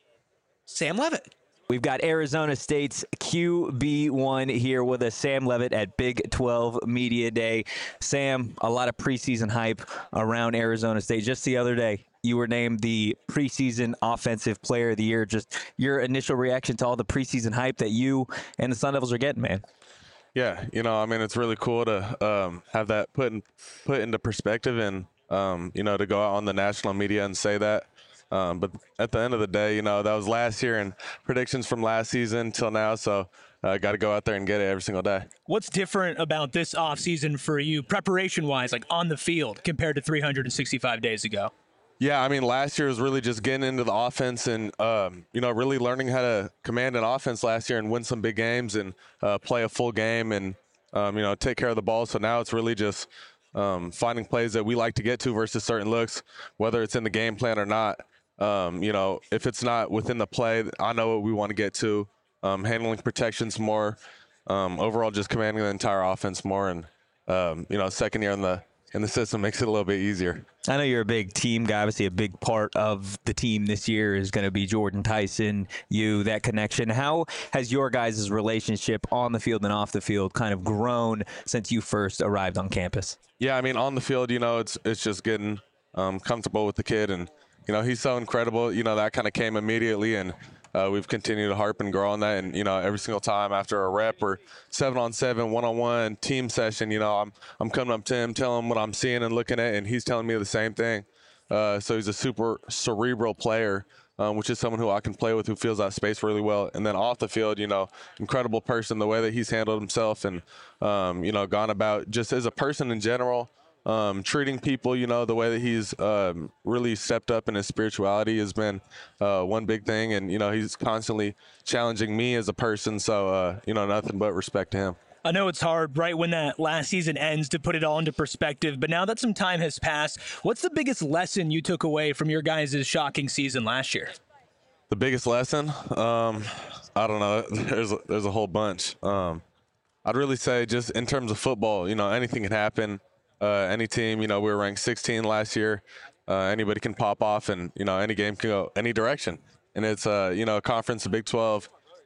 Sam Levitt. We've got Arizona State's Q B one here with us, Sam Levitt at Big twelve Media Day. Sam, a lot of preseason hype around Arizona State. Just the other day, you were named the preseason offensive player of the year. Just your initial reaction to all the preseason hype that you and the Sun Devils are getting, man. Yeah, you know, I mean, it's really cool to um, have that put in, put into perspective and, um, you know, to go out on the national media and say that. Um, but at the end of the day, you know, that was last year and predictions from last season till now. So I uh, got to go out there and get it every single day. What's different about this offseason for you, preparation-wise, like on the field, compared to three hundred sixty-five days ago? Yeah, I mean, last year was really just getting into the offense and, um, you know, really learning how to command an offense last year and win some big games and uh, play a full game and, um, you know, take care of the ball. So now it's really just um, finding plays that we like to get to versus certain looks, whether it's in the game plan or not. Um, you know, if it's not within the play, I know what we want to get to, um, handling protections more, um, overall just commanding the entire offense more. And, um, you know, second year in the in the system makes it a little bit easier. I know you're a big team guy. Obviously, a big part of the team this year is going to be Jordan Tyson, you, that connection. How has your guys' relationship on the field and off the field kind of grown since you first arrived on campus? Yeah, I mean, on the field, you know, it's it's just getting um, comfortable with the kid. And, you know, he's so incredible. You know, that kind of came immediately. And uh, we've continued to harp and grow on that. And, you know, every single time after a rep or seven on seven, one on one team session, you know, I'm I'm coming up to him, telling him what I'm seeing and looking at, and he's telling me the same thing. Uh, so he's a super cerebral player, um, which is someone who I can play with, who feels that space really well. And then off the field, you know, incredible person, the way that he's handled himself and, um, you know, gone about just as a person in general. Um, treating people, you know, the way that he's um, really stepped up in his spirituality has been uh, one big thing. And, you know, he's constantly challenging me as a person. So, uh, you know, nothing but respect to him. I know it's hard right when that last season ends to put it all into perspective, but now that some time has passed, what's the biggest lesson you took away from your guys' shocking season last year? The biggest lesson? Um, I don't know. There's a, there's a whole bunch. Um, I'd really say just in terms of football, you know, anything can happen. Uh, any team, you know, we were ranked sixteen last year. Uh, anybody can pop off and, you know, any game can go any direction. And it's, uh, you know, a conference, the Big twelve,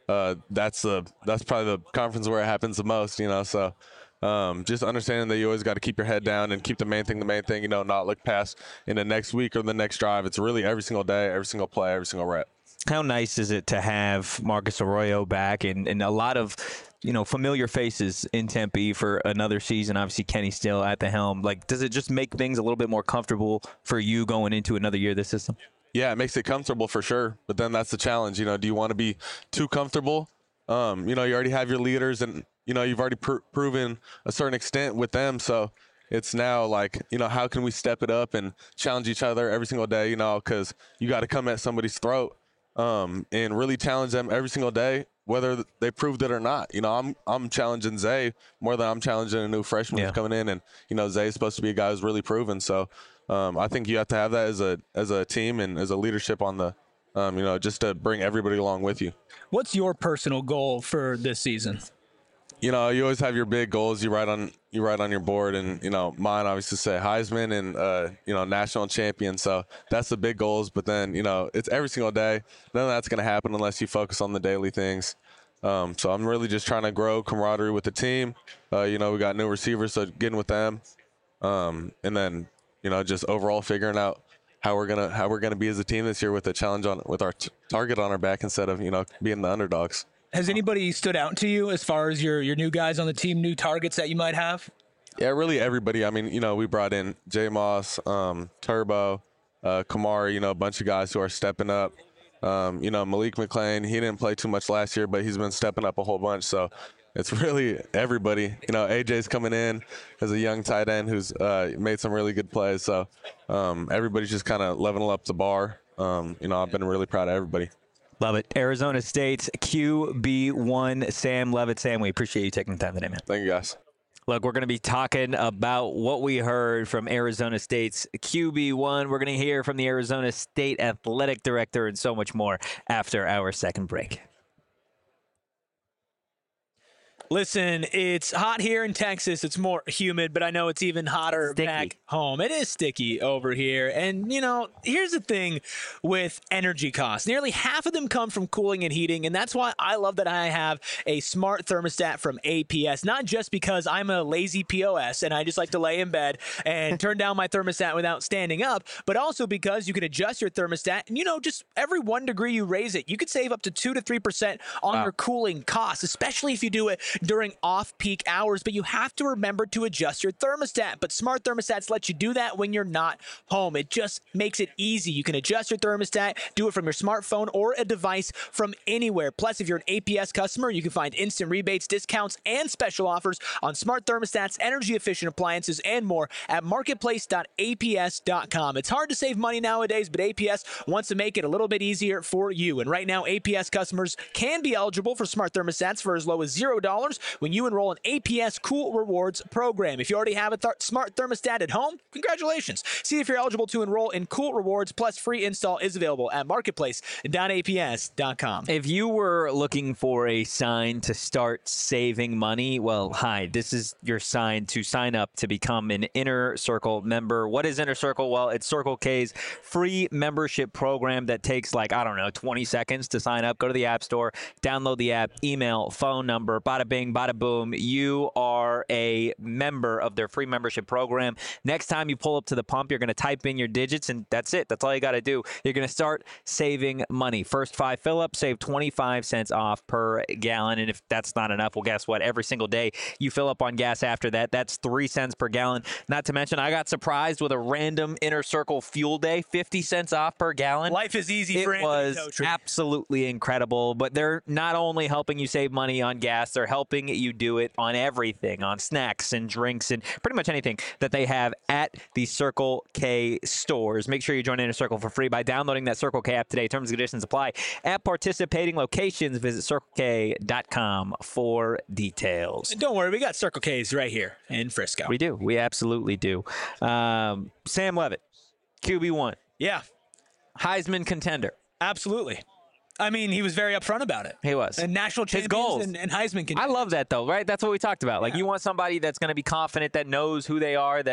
uh, that's the that's probably the conference where it happens the most, you know. So um, just understanding that you always got to keep your head down and keep the main thing the main thing, you know, not look past in the next week or the next drive. It's really every single day, every single play, every single rep. How nice is it to have Marcus Arroyo back and, and a lot of, you know, familiar faces in Tempe for another season? Obviously, Kenny still at the helm. Like, does it just make things a little bit more comfortable for you going into another year of this system? Yeah, it makes it comfortable for sure. But then that's the challenge. You know, do you want to be too comfortable? Um, you know, you already have your leaders and, you know, you've already pr- proven a certain extent with them. So it's now like, you know, how can we step it up and challenge each other every single day, you know, because you got to come at somebody's throat um, and really challenge them every single day, whether they proved it or not. You know, I'm I'm challenging Zay more than I'm challenging a new freshman Yeah. who's coming in. And, you know, Zay is supposed to be a guy who's really proven. So um, I think you have to have that as a as a team and as a leadership on the, um, you know, just to bring everybody along with you. What's your personal goal for this season? You know, you always have your big goals you write on you write on your board, and you know, mine obviously say Heisman and uh, you know, national champion. So that's the big goals. But then, you know, it's every single day. None of that's going to happen unless you focus on the daily things. Um, so I'm really just trying to grow camaraderie with the team. Uh, you know, we got new receivers, so getting with them, um, and then you know, just overall figuring out how we're gonna how we're gonna be as a team this year with a challenge on with our t- target on our back instead of, you know, being the underdogs. Has anybody stood out to you as far as your, your new guys on the team, new targets that you might have? Yeah, really everybody. I mean, you know, we brought in J Moss, um, Turbo, uh, Kamari, you know, a bunch of guys who are stepping up. Um, you know, Malik McClain, he didn't play too much last year, but he's been stepping up a whole bunch. So it's really everybody. You know, A J's coming in as a young tight end who's uh, made some really good plays. So um, everybody's just kind of leveling up the bar. Um, you know, I've been really proud of everybody. Love it. Arizona State's Q B one, Sam Levitt. Sam, we appreciate you taking the time today, man. Thank you, guys. Look, we're going to be talking about what we heard from Arizona State's Q B one. We're going to hear from the Arizona State Athletic Director and so much more after our second break. Listen, it's hot here in Texas. It's more humid, but I know it's even hotter Sticky. back home. It is sticky over here. And, you know, here's the thing with energy costs. Nearly half of them come from cooling and heating, and that's why I love that I have a smart thermostat from A P S. Not just because I'm a lazy P O S and I just like to lay in bed and turn down my thermostat without standing up, but also because you can adjust your thermostat and, you know, just every one degree you raise it, you could save up to two to three percent on Wow. your cooling costs, especially if you do it during off-peak hours. But you have to remember to adjust your thermostat. But smart thermostats let you do that when you're not home. It just makes it easy. You can adjust your thermostat, do it from your smartphone or a device from anywhere. Plus, if you're an A P S customer, you can find instant rebates, discounts, and special offers on smart thermostats, energy-efficient appliances, and more at marketplace dot A P S dot com. It's hard to save money nowadays, but A P S wants to make it a little bit easier for you. And right now, A P S customers can be eligible for smart thermostats for as low as zero dollars when you enroll in A P S Cool Rewards program. If you already have a th- smart thermostat at home, congratulations. See if you're eligible to enroll in Cool Rewards, plus free install is available at marketplace dot A P S dot com. If you were looking for a sign to start saving money, well, hi, this is your sign to sign up to become an Inner Circle member. What is Inner Circle? Well, it's Circle K's free membership program that takes like, I don't know, twenty seconds to sign up. Go to the App Store, download the app, email, phone number, bada bing, bada boom. You are a member of their free membership program. Next time you pull up to the pump, you're going to type in your digits, and that's it. That's all you got to do. You're going to start saving money. First five fill-ups, save twenty-five cents off per gallon. And if that's not enough, well, guess what? Every single day you fill up on gas after that, that's three cents per gallon. Not to mention, I got surprised with a random Inner Circle fuel day, fifty cents off per gallon. Life is easy for It Anthony was Totri. absolutely incredible. But they're not only helping you save money on gas, they're helping you do it on everything, on snacks and drinks and pretty much anything that they have at the Circle K stores. Make sure you join Inner Circle for free by downloading that Circle K app today. Terms and conditions apply at participating locations. Visit circle k dot com for details. And don't worry, we got Circle K's right here in Frisco. We do. We absolutely do. Um, Sam Levitt, Q B one, yeah, Heisman contender. absolutely. I mean, he was very upfront about it. He was. And national His champions goals. and, and Heisman can. I love that, though, right? That's what we talked about. Like, you want somebody that's going to be confident, that knows who they are, that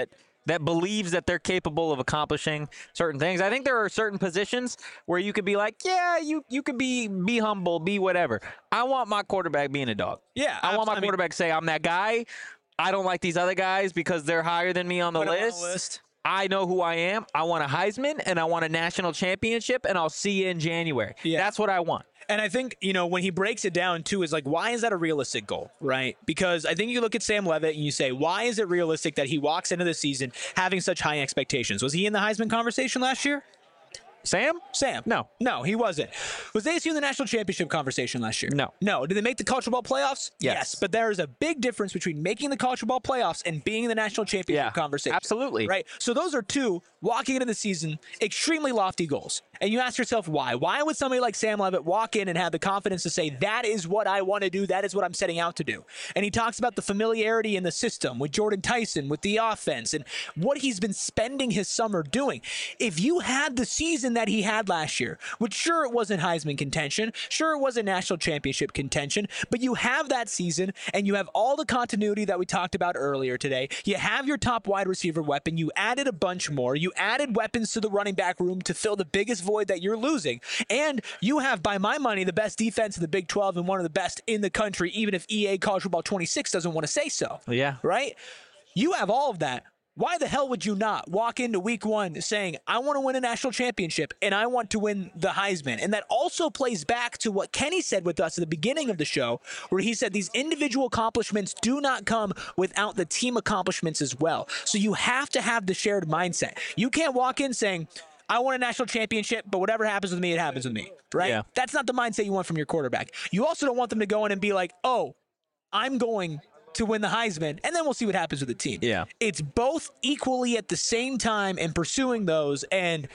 that believes that they're capable of accomplishing certain things. I think there are certain positions where you could be like, yeah, you you could be be humble, be whatever. I want my quarterback being a dog. Yeah, I want my abs- I mean- quarterback to say, I'm that guy. I don't like these other guys because they're higher than me on the Put 'em on the list. list. I know who I am. I want a Heisman and I want a national championship, and I'll see you in January. Yeah. That's what I want. And I think, you know, when he breaks it down, too, is like, why is that a realistic goal, right? Because I think you look at Sam Levitt and you say, why is it realistic that he walks into the season having such high expectations? Was he in the Heisman conversation last year? Sam? Sam? No. No, he wasn't. Was A S U in the national championship conversation last year? No. No. Did they make the college football playoffs? Yes. But there is a big difference between making the college football playoffs and being in the national championship Yeah, conversation. absolutely. Right? So those are two, walking into the season, extremely lofty goals. And you ask yourself why. Why would somebody like Sam Levitt walk in and have the confidence to say, that is what I want to do, that is what I'm setting out to do? And he talks about the familiarity in the system with Jordan Tyson, with the offense, and what he's been spending his summer doing. If you had the season that he had last year, which sure it wasn't Heisman contention, sure it wasn't national championship contention, but you have that season and you have all the continuity that we talked about earlier today. You have your top wide receiver weapon. You added a bunch more. You added weapons to the running back room to fill the biggest void that you're losing. And you have, by my money, the best defense in the Big twelve and one of the best in the country, even if E A College Football twenty-six doesn't want to say so. Yeah. Right? You have all of that. Why the hell would you not walk into week one saying, I want to win a national championship and I want to win the Heisman? And that also plays back to what Kenny said with us at the beginning of the show, where he said these individual accomplishments do not come without the team accomplishments as well. So you have to have the shared mindset. You can't walk in saying, I want a national championship, but whatever happens with me, it happens with me, right? Yeah. That's not the mindset you want from your quarterback. You also don't want them to go in and be like, oh, I'm going to win the Heisman, and then we'll see what happens with the team. Yeah. It's both equally at the same time and pursuing those, and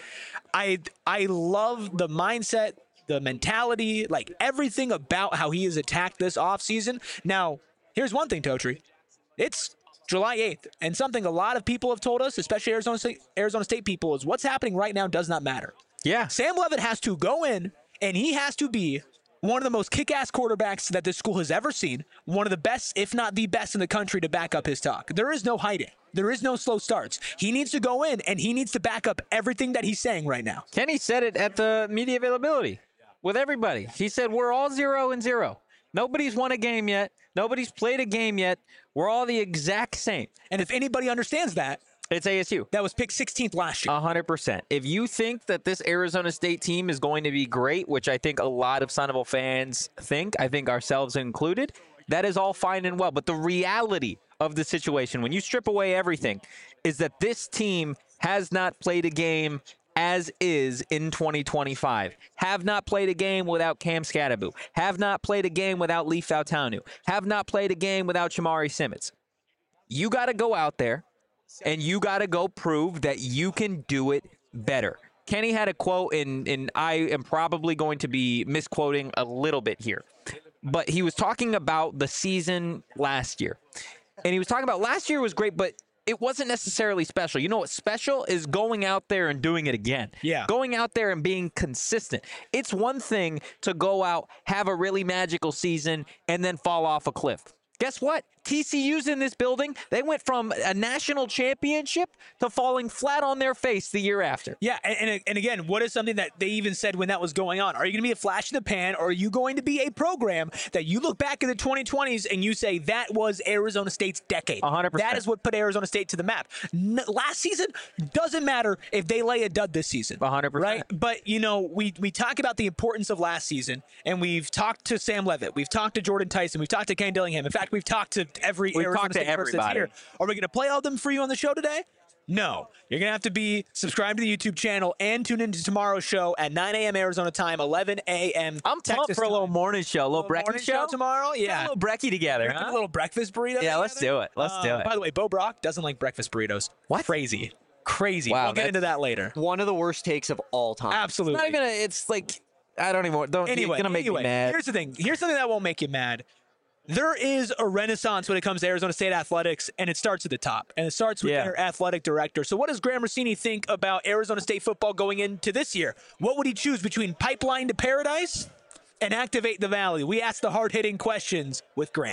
I I love the mindset, the mentality, like everything about how he has attacked this offseason. Now, here's one thing, Totri. It's July eighth, and something a lot of people have told us, especially Arizona State, Arizona State people, is what's happening right now does not matter. Yeah. Sam Levitt has to go in, and he has to be one of the most kick-ass quarterbacks that this school has ever seen, one of the best, if not the best in the country, to back up his talk. There is no hiding. There is no slow starts. He needs to go in, and he needs to back up everything that he's saying right now. Kenny said it at the media availability with everybody. He said, we're all zero and zero. Nobody's won a game yet. Nobody's played a game yet. We're all the exact same. And if anybody understands that, It's A S U. that was picked sixteenth last year. one hundred percent. If you think that this Arizona State team is going to be great, which I think a lot of Sun Devil fans think, I think ourselves included, that is all fine and well. But the reality of the situation, when you strip away everything, is that this team has not played a game as is in twenty twenty-five. Have not played a game without Cam Scatterbu. Have not played a game without Lee Fautanu. Have not played a game without Shamari Simmons. You got to go out there, and you got to go prove that you can do it better. Kenny had a quote, and, and I am probably going to be misquoting a little bit here. But he was talking about the season last year. And he was talking about last year was great, but it wasn't necessarily special. You know what special is? Going out there and doing it again. Yeah. Going out there and being consistent. It's one thing to go out, have a really magical season, and then fall off a cliff. Guess what? T C U's in this building. They went from a national championship to falling flat on their face the year after. Yeah, and, and, and again, what is something that they even said when that was going on? Are you going to be a flash in the pan, or are you going to be a program that you look back in the twenty twenties and you say that was Arizona State's decade? one hundred percent. That is what put Arizona State to the map. N- last season, doesn't matter if they lay a dud this season. one hundred percent. Right? But, you know, we, we talk about the importance of last season, and we've talked to Sam Levitt. We've talked to Jordan Tyson. We've talked to Kane Dillingham. In fact, we've talked to every We've Arizona talked to State person that's everybody. here. Are we going to play all of them for you on the show today? No. You're going to have to be subscribed to the YouTube channel and tune into tomorrow's show at nine a.m. Arizona time, eleven a.m. I'm pumped Texas for a little time. morning show, a little, Little breakfast morning show. show tomorrow? Get Yeah. a little brekkie together, Put huh? a little breakfast burrito. Yeah, let's together. do it. Let's do Uh, it. By the way, Bo Brock doesn't like breakfast burritos. What? Crazy. Crazy. Wow, we'll get that's- into that later. One of the worst takes of all time. Absolutely. It's not even a, it's like, I don't even, don't, Anyway, it's gonna make anyway, me mad. here's the thing. Here's something that won't make you mad. There is a renaissance when it comes to Arizona State athletics, and it starts at the top, and it starts with Yeah. their athletic director. So what does Graham Rossini think about Arizona State football going into this year? What would he choose between pipeline to paradise and activate the valley? We ask the hard-hitting questions with Graham.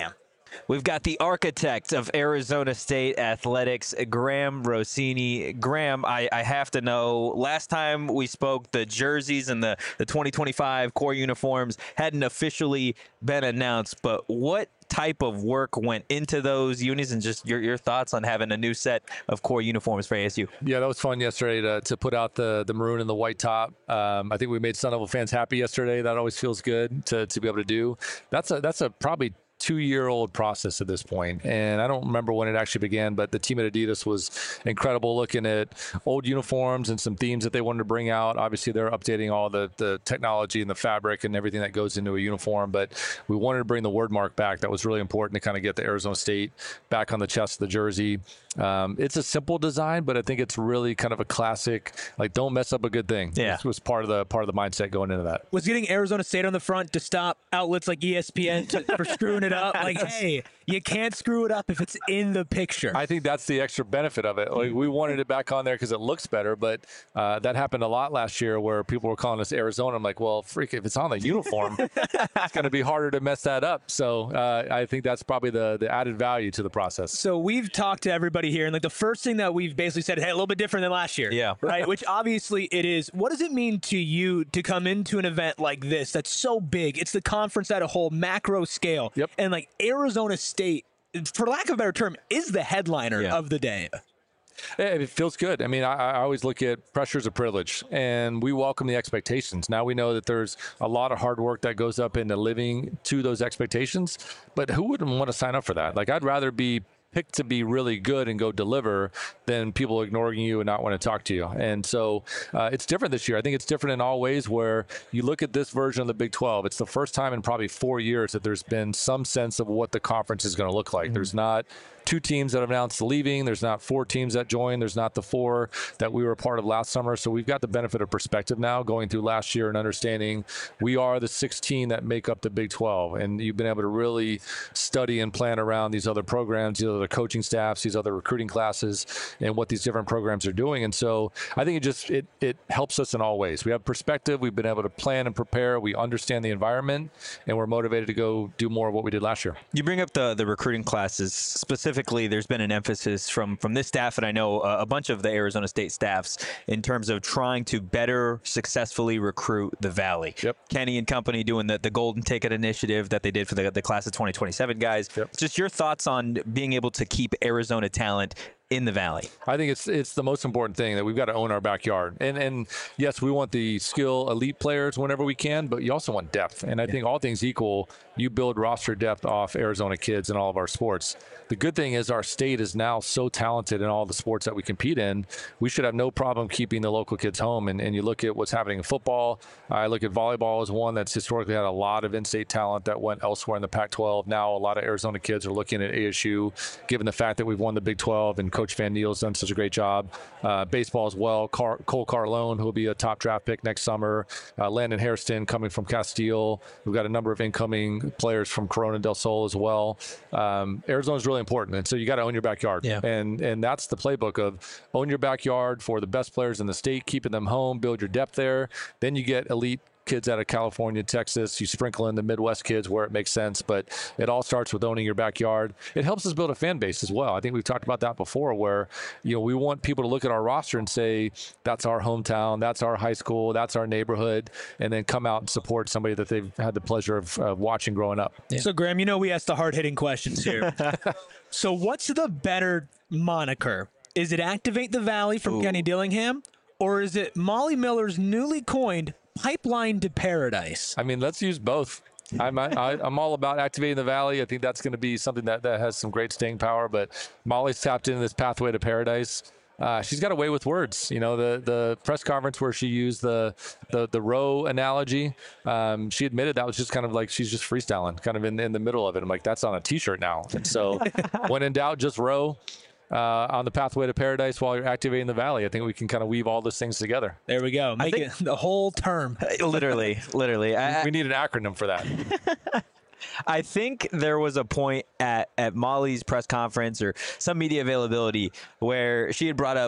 We've got the architect of Arizona State athletics, Graham Rossini. Graham, I, I have to know, last time we spoke, the jerseys and the, the twenty twenty-five core uniforms hadn't officially been announced, but what type of work went into those unis, and just your, your thoughts on having a new set of core uniforms for A S U? Yeah, that was fun yesterday to, to put out the the maroon and the white top. Um, I think we made Sun Devil fans happy yesterday. That always feels good to, to be able to do. That's a that's a probably two-year-old process at this point, and I don't remember when it actually began, but the team at Adidas was incredible, looking at old uniforms and some themes that they wanted to bring out. Obviously, they're updating all the the technology and the fabric and everything that goes into a uniform, but we wanted to bring the word mark back. That was really important to kind of get the Arizona State back on the chest of the jersey. Um, it's a simple design, but I think it's really kind of a classic, like, don't mess up a good thing. Yeah. This was part of the part of the mindset going into that. Was getting Arizona State on the front to stop outlets like E S P N to, for screwing it up. Like, hey, you can't screw it up if it's in the picture. I think that's the extra benefit of it. Like, we wanted it back on there because it looks better, but uh, that happened a lot last year where people were calling us Arizona. I'm like, well, freak, if it's on the uniform, it's going to be harder to mess that up. So uh, I think that's probably the, the added value to the process. So we've talked to everybody here, and like the first thing that we've basically said, hey, a little bit different than last year. Yeah. Right. Which obviously it is. What does it mean to you to come into an event like this that's so big? It's the conference at a whole macro scale. Yep. And like Arizona State, for lack of a better term, is the headliner Yeah. of the day. Yeah, it feels good. I mean, I, I always look at pressure as a privilege, and we welcome the expectations. Now we know that there's a lot of hard work that goes up into living to those expectations, but who wouldn't want to sign up for that? Like, I'd rather be picked to be really good and go deliver than people ignoring you and not want to talk to you. And so uh, it's different this year. I think it's different in all ways where you look at this version of the Big twelve. It's the first time in probably four years that there's been some sense of what the conference is going to look like. Mm-hmm. There's not two teams that have announced leaving. There's not four teams that joined. There's not the four that we were a part of last summer. So we've got the benefit of perspective now going through last year and understanding we are the sixteen that make up the Big twelve. And you've been able to really study and plan around these other programs, these other coaching staffs, these other recruiting classes, and what these different programs are doing. And so I think it just, it, it helps us in all ways. We have perspective. We've been able to plan and prepare. We understand the environment, and we're motivated to go do more of what we did last year. You bring up the the recruiting classes. Specifically, there's been an emphasis from from this staff, and I know uh, a bunch of the Arizona State staffs, in terms of trying to better successfully recruit the Valley. Yep. Kenny and company doing the, the Golden Ticket initiative that they did for the, the class of twenty twenty-seven guys. Yep. Just your thoughts on being able to keep Arizona talent in the Valley. I think it's it's the most important thing, that we've got to own our backyard. And and yes, we want the skill elite players whenever we can, but you also want depth. And I yeah. think all things equal, you build roster depth off Arizona kids in all of our sports. The good thing is our state is now so talented in all the sports that we compete in. We should have no problem keeping the local kids home. And, and you look at what's happening in football. I look at volleyball as one that's historically had a lot of in-state talent that went elsewhere in the Pac twelve. Now a lot of Arizona kids are looking at A S U, given the fact that we've won the Big twelve and Coach Van Neal's done such a great job. Uh, baseball as well. Car- Cole Carlone, who will be a top draft pick next summer. Uh, Landon Hairston coming from Castile. We've got a number of incoming players from Corona del Sol as well. Um, Arizona's really important, and so you got to own your backyard. Yeah. And and that's the playbook of own your backyard for the best players in the state, keeping them home, build your depth there. Then you get elite kids out of California, Texas. You sprinkle in the Midwest kids where it makes sense, but it all starts with owning your backyard. It helps us build a fan base as well. I think we've talked about that before, where, you know, we want people to look at our roster and say, that's our hometown, that's our high school, that's our neighborhood, and then come out and support somebody that they've had the pleasure of uh, watching growing up. Yeah. So, Graham, you know we ask the hard-hitting questions here. So what's the better moniker? Is it Activate the Valley from Ooh. Kenny Dillingham, or is it Molly Miller's newly coined Pipeline to Paradise? I mean, let's use both. I'm I, I'm all about activating the Valley. I think that's going to be something that, that has some great staying power. But Molly's tapped into this pathway to paradise. Uh, she's got a way with words. You know, the the press conference where she used the the, the row analogy, um, she admitted that was just kind of like she's just freestyling, kind of in, in the middle of it. I'm like, that's on a T-shirt now. And so when in doubt, just row. Uh, on the pathway to paradise while you're activating the Valley. I think we can kind of weave all those things together. There we go. Make think, it the whole term. Literally, literally. I, we need an acronym for that. I think there was a point at, at Molly's press conference or some media availability where she had brought up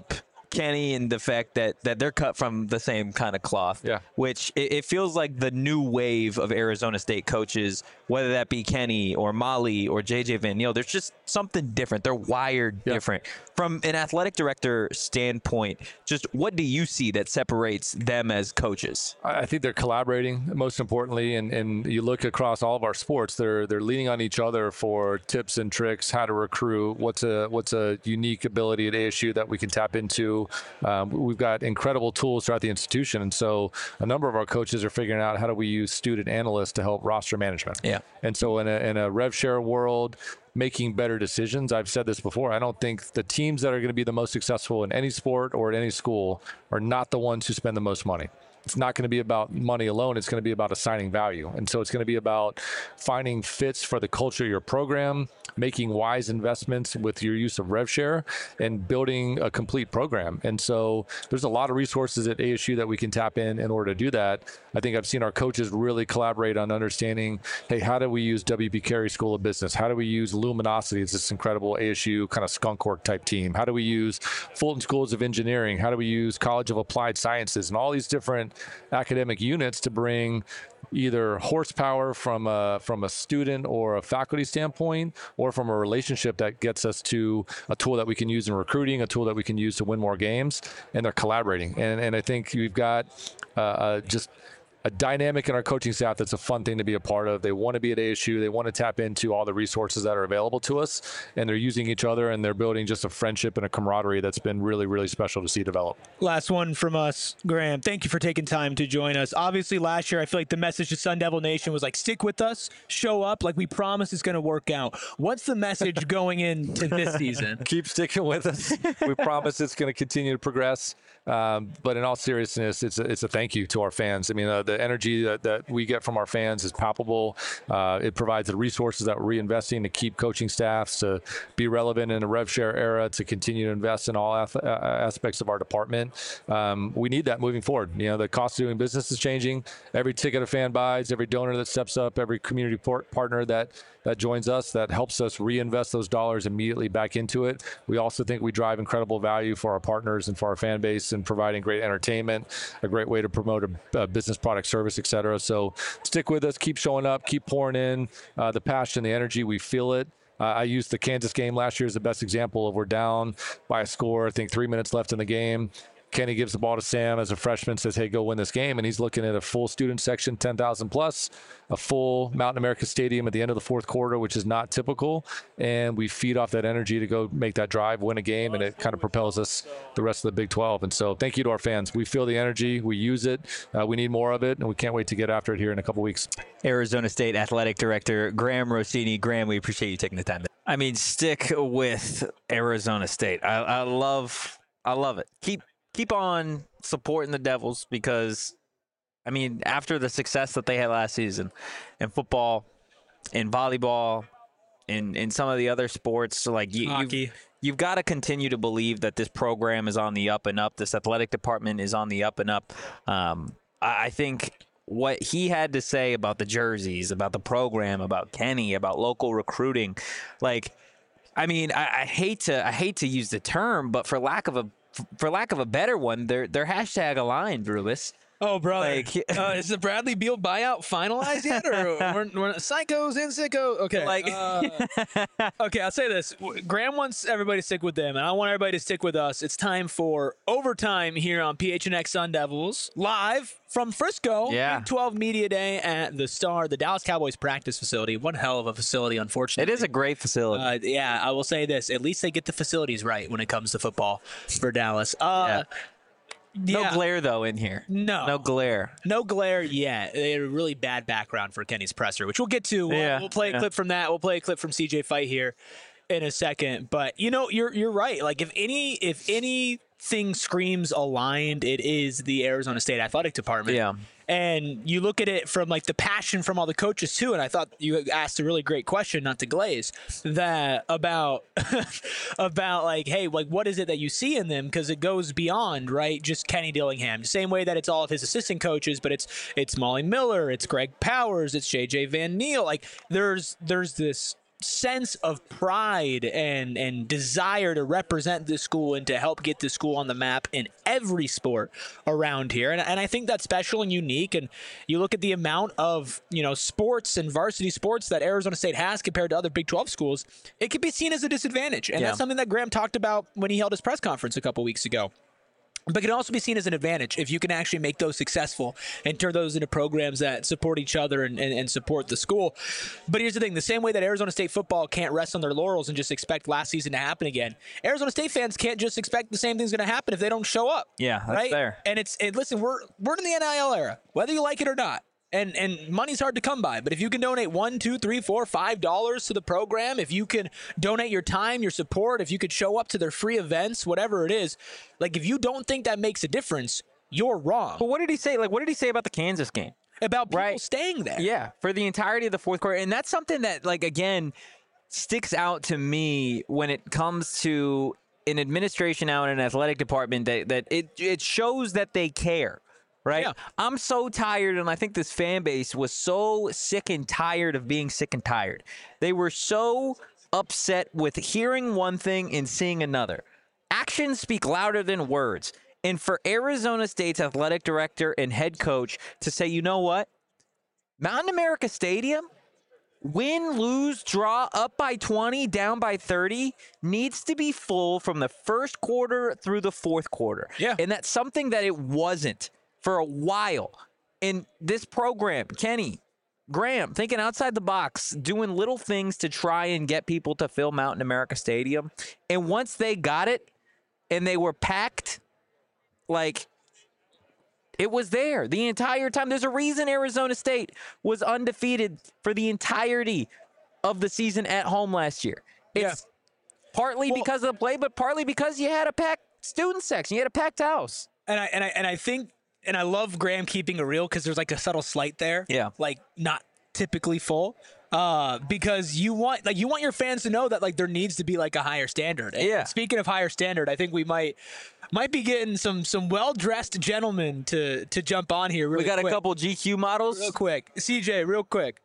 Kenny and the fact that that they're cut from the same kind of cloth. Yeah. Which it, it feels like the new wave of Arizona State coaches, whether that be Kenny or Molly or J J Van Neal, there's just something different. They're wired Yeah. different. From an athletic director standpoint, just what do you see that separates them as coaches? I I think they're collaborating most importantly, and, and you look across all of our sports, they're they're leaning on each other for tips and tricks, how to recruit, what's a what's a unique ability at A S U that we can tap into. Um, we've got incredible tools throughout the institution, and so a number of our coaches are figuring out how do we use student analysts to help roster management. Yeah. And so in a in a rev share world, making better decisions. I've said this before. I don't think the teams that are going to be the most successful in any sport or at any school are not the ones who spend the most money. It's not going to be about money alone. It's going to be about assigning value. And so it's going to be about finding fits for the culture of your program, making wise investments with your use of rev share, and building a complete program. And so there's a lot of resources at A S U that we can tap in in order to do that. I think I've seen our coaches really collaborate on understanding, hey, how do we use W P Carey School of Business? How do we use Luminosity as this incredible A S U kind of skunk work type team? How do we use Fulton Schools of Engineering? How do we use College of Applied Sciences? And all these different academic units to bring either horsepower from a from a student or a faculty standpoint, or from a relationship that gets us to a tool that we can use in recruiting, a tool that we can use to win more games, and they're collaborating. And and I think we've got uh, uh, just a dynamic in our coaching staff that's a fun thing to be a part of. They want to be at A S U. They want to tap into all the resources that are available to us, and they're using each other, and they're building just a friendship and a camaraderie that's been really, really special to see develop. Last one from us, Graham. Thank you for taking time to join us. Obviously, last year, I feel like the message to Sun Devil Nation was like, stick with us, show up, like we promise it's going to work out. What's the message going into this season? Keep sticking with us. We promise it's going to continue to progress. Um, but in all seriousness, it's a, it's a thank you to our fans. I mean, uh, the energy that, that we get from our fans is palpable. Uh, it provides the resources that we're reinvesting to keep coaching staffs, to be relevant in a rev share era, to continue to invest in all ath- uh, aspects of our department. Um, we need that moving forward. You know, the cost of doing business is changing. Every ticket a fan buys, every donor that steps up, every community port- partner that that joins us, that helps us reinvest those dollars immediately back into it. We also think we drive incredible value for our partners and for our fan base, and providing great entertainment, a great way to promote a, a business product service, et cetera. So stick with us, keep showing up, keep pouring in uh, the passion, the energy. We feel it. Uh, I used the Kansas game last year as the best example of we're down by a score, I think three minutes left in the game. Kenny gives the ball to Sam as a freshman, says, hey, go win this game. And he's looking at a full student section, ten thousand plus, a full Mountain America Stadium at the end of the fourth quarter, which is not typical. And we feed off that energy to go make that drive, win a game, and it kind of propels us the rest of the Big twelve. And so thank you to our fans. We feel the energy. We use it. Uh, we need more of it, and we can't wait to get after it here in a couple weeks. Arizona State Athletic Director Graham Rossini. Graham, we appreciate you taking the time. I mean, stick with Arizona State. I, I love, I love it. Keep keep on supporting the Devils, because, I mean, after the success that they had last season in football, in volleyball, in in some of the other sports, like you, Hockey. you've, you've got to continue to believe that this program is on the up and up. This athletic department is on the up and up. Um, I, I think what he had to say about the jerseys, about the program, about Kenny, about local recruiting, like, I mean, I, I hate to I hate to use the term, but for lack of a for lack of a better one, they're they're hashtag aligned, Rubis. Oh, brother. Like, uh, is the Bradley Beal buyout finalized yet? Or we're, we're psychos in sicko? Okay. Like- uh, okay, I'll say this. Graham wants everybody to stick with them, and I want everybody to stick with us. It's time for overtime here on P H N X Sun Devils, live from Frisco. Yeah. Big twelve Media Day at the Star, the Dallas Cowboys practice facility. One hell of a facility, unfortunately. It is a great facility. Uh, yeah, I will say this. At least they get the facilities right when it comes to football for Dallas. Uh, no yeah. glare though in here. No. No glare. No glare yet. They had a really bad background for Kenny's presser, which we'll get to. We'll, Yeah, we'll play a yeah. clip from that. We'll play a clip from C J Fight here in a second. But you know, you're you're right. Like if any if anything screams aligned, it is the Arizona State Athletic Department. Yeah. And you look at it from like the passion from all the coaches too. And I thought you asked a really great question, not to glaze, that about about like, hey, like what is it that you see in them? Because it goes beyond, right, just Kenny Dillingham. Same way that it's all of his assistant coaches, but it's it's Molly Miller, it's Greg Powers, it's J J Van Neal. Like there's there's this sense of pride and and desire to represent this school and to help get this school on the map in every sport around here. And, and I think that's special and unique. And you look at the amount of, you know, sports and varsity sports that Arizona State has compared to other Big twelve schools, it can be seen as a disadvantage. And Yeah. that's something that Graham talked about when he held his press conference a couple weeks ago. But it can also be seen as an advantage if you can actually make those successful and turn those into programs that support each other and, and, and support the school. But here's the thing. The same way that Arizona State football can't rest on their laurels and just expect last season to happen again, Arizona State fans can't just expect the same thing's going to happen if they don't show up. Yeah, that's right? fair. And it's and listen, we're we're in the N I L era, whether you like it or not. And and money's hard to come by, but if you can donate one, two, three, four, five dollars to the program, if you can donate your time, your support, if you could show up to their free events, whatever it is, like if you don't think that makes a difference, you're wrong But what did he say? Like, what did he say about the Kansas game? about people Right. staying there. Yeah, for the entirety of the fourth quarter. And that's something that, like, again, sticks out to me when it comes to an administration now in an athletic department that, that it, it shows that they care. Right? Yeah. I'm so tired, and I think this fan base was so sick and tired of being sick and tired. They were so upset with hearing one thing and seeing another. Actions speak louder than words. And for Arizona State's athletic director and head coach to say, you know what? Mountain America Stadium, win, lose, draw, up by twenty, down by thirty, needs to be full from the first quarter through the fourth quarter. Yeah. And that's something that it wasn't for a while. And this program, Kenny, Graham, thinking outside the box, doing little things to try and get people to fill Mountain America Stadium. And once they got it and they were packed, like, it was there the entire time. There's a reason Arizona State was undefeated for the entirety of the season at home last year. It's partly Well- because of the play, but partly because you had a packed student section. You had a packed house. And I and I and I think and I love Graham keeping it real because there's like a subtle slight there. Yeah. Like not typically full. Uh, because you want like you want your fans to know that like there needs to be like a higher standard. And Yeah. speaking of higher standard, I think we might might be getting some some well dressed gentlemen to to jump on here. Really We got quick. a couple G Q models. real quick. C J, real quick.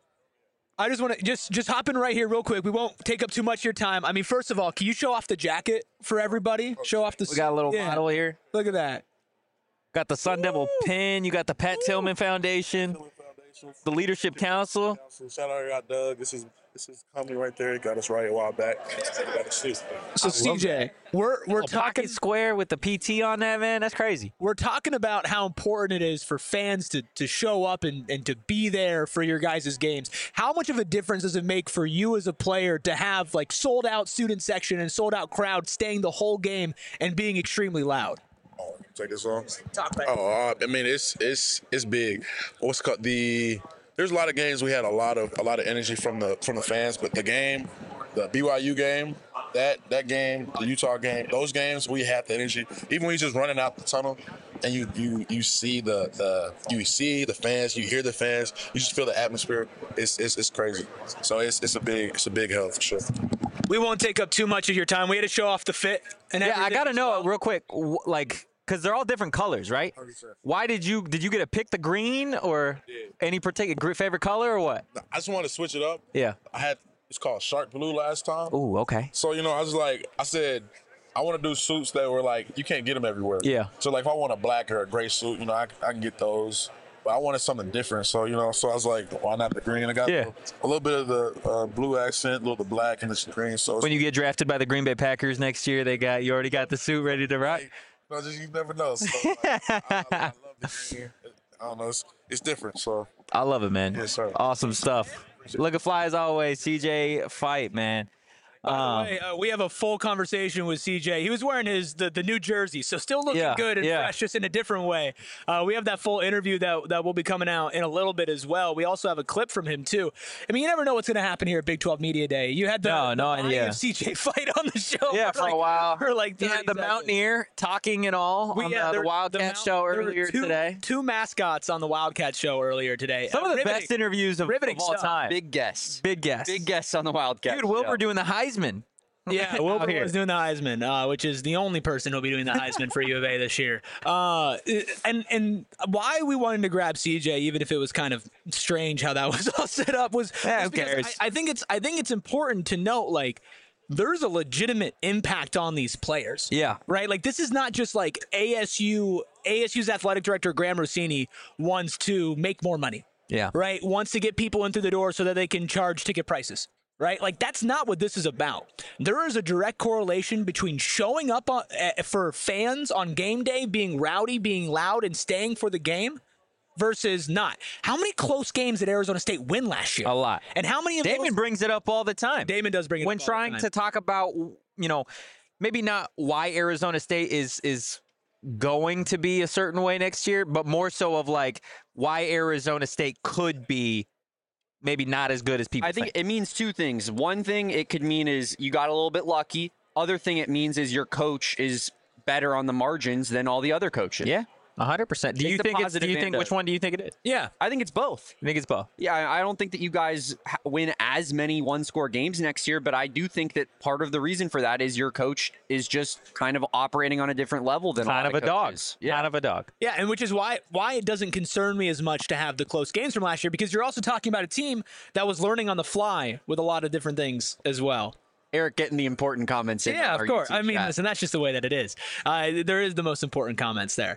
I just want to just just hop in right here real quick. We won't take up too much of your time. I mean, first of all, can you show off the jacket for everybody? Show off the. We got a little yeah, model here. Look at that. Got the Sun Devil pin. You got the Pat Tillman Foundation, the Leadership Council. Shout out, got Doug. This is this is company right there. Got us right a while back. Got us shoot. So C J, we're we're A talking pocket square with the P T on that, man. That's crazy. we're talking about how important it is for fans to to show up and, and to be there for your guys' games. How much of a difference does it make for you as a player to have like sold out student section and sold out crowd staying the whole game and being extremely loud? Oh, take this on. Talk back. Oh, uh, I mean it's it's it's big. What's called the? There's a lot of games we had a lot of a lot of energy from the from the fans, but the game, the B Y U game, that that game, the Utah game, those games we had the energy. Even when you're just running out the tunnel, and you you you see the the you see the fans, you hear the fans, you just feel the atmosphere. It's it's, it's crazy. So it's it's a big it's a big help for sure. We won't take up too much of your time. We had to show off the fit. And Yeah, I everything gotta as know well. real quick, w- like, because they're all different colors, right? Why did you did you get to pick the green or any particular gr- favorite color or what? I just want to switch it up. Yeah. I had it's called Shark Blue last time. Ooh, okay. So, you know, I was like, I said, I want to do suits that were like, you can't get them everywhere. Yeah. So, like, if I want a black or a gray suit, you know, I, I can get those. But I wanted something different. So, you know, so I was like, why not the green? I got Yeah. a, little, a little bit of the uh, blue accent, a little of the black, and the green. So, When you get drafted by the Green Bay Packers next year, they got you already got the suit ready to rock. you know, just, you never know. So, like, I, I, I love the green. I don't know. It's, it's different. So, I love it, man. Yes, sir. Awesome stuff. Look at fly as always, C J Fight, man. Um, Hey, uh, we have a full conversation with C J. He was wearing his the, the new jersey, so still looking Yeah, good and yeah. fresh, just in a different way. Uh, we have that full interview that that will be coming out in a little bit as well. We also have a clip from him too. I mean, you never know what's going to happen here at Big twelve Media Day. You had the, No, the no body idea. of C J Fight on the show. Yeah, for a like, while. For like yeah, thirty the seconds. Mountaineer talking and all We- on yeah, the, there- the Wildcat Mount- show there were earlier two, today. Two mascots on the Wildcat show earlier today. Some Uh, of the riveting. best interviews of, riveting of all stuff. time. Big guests. Big guess. Big guests on the Wildcat. Dude, Wilbur show. doing the Heisman. Yeah, Wilbur was doing the Heisman, uh, which is the only person who'll be doing the Heisman for U of A this year. Uh, and and why we wanted to grab C J, even if it was kind of strange how that was all set up, was, Yeah, was who cares? I, I think it's I think it's important to note, like, there's a legitimate impact on these players. Yeah. Right? Like, this is not just like A S U, A S U's athletic director, Graham Rossini, wants to make more money. Yeah. Right? Wants to get people in through the door so that they can charge ticket prices. Right? Like, that's not what this is about. There is a direct correlation between showing up on, uh, for fans on game day, being rowdy, being loud, and staying for the game versus not. How many close games did Arizona State win last year? A lot. And how many of Damon those? brings it up all the time. Damon does bring it when up all trying the time. to talk about, you know, maybe not why Arizona State is is going to be a certain way next year, but more so of like why Arizona State could be maybe not as good as people I think it means two things. One thing it could mean is you got a little bit lucky. Other thing it means is your coach is better on the margins than all the other coaches. Yeah, one hundred percent. Do Take you the think it's, do positive you think and which the- one do you think it is? Yeah. I think it's both. You think it's both? Yeah, I I don't think that you guys ha- win as many one-score games next year, but I do think that part of the reason for that is your coach is just kind of operating on a different level than Kind a of lot a dog. coaches. Yeah. Kind of a dog. Yeah, and which is why why it doesn't concern me as much to have the close games from last year, because you're also talking about a team that was learning on the fly with a lot of different things as well. Eric getting the important comments in. Yeah, our of course. YouTube I mean, chat. listen, that's just the way that it is. Uh, there is the most important comments there.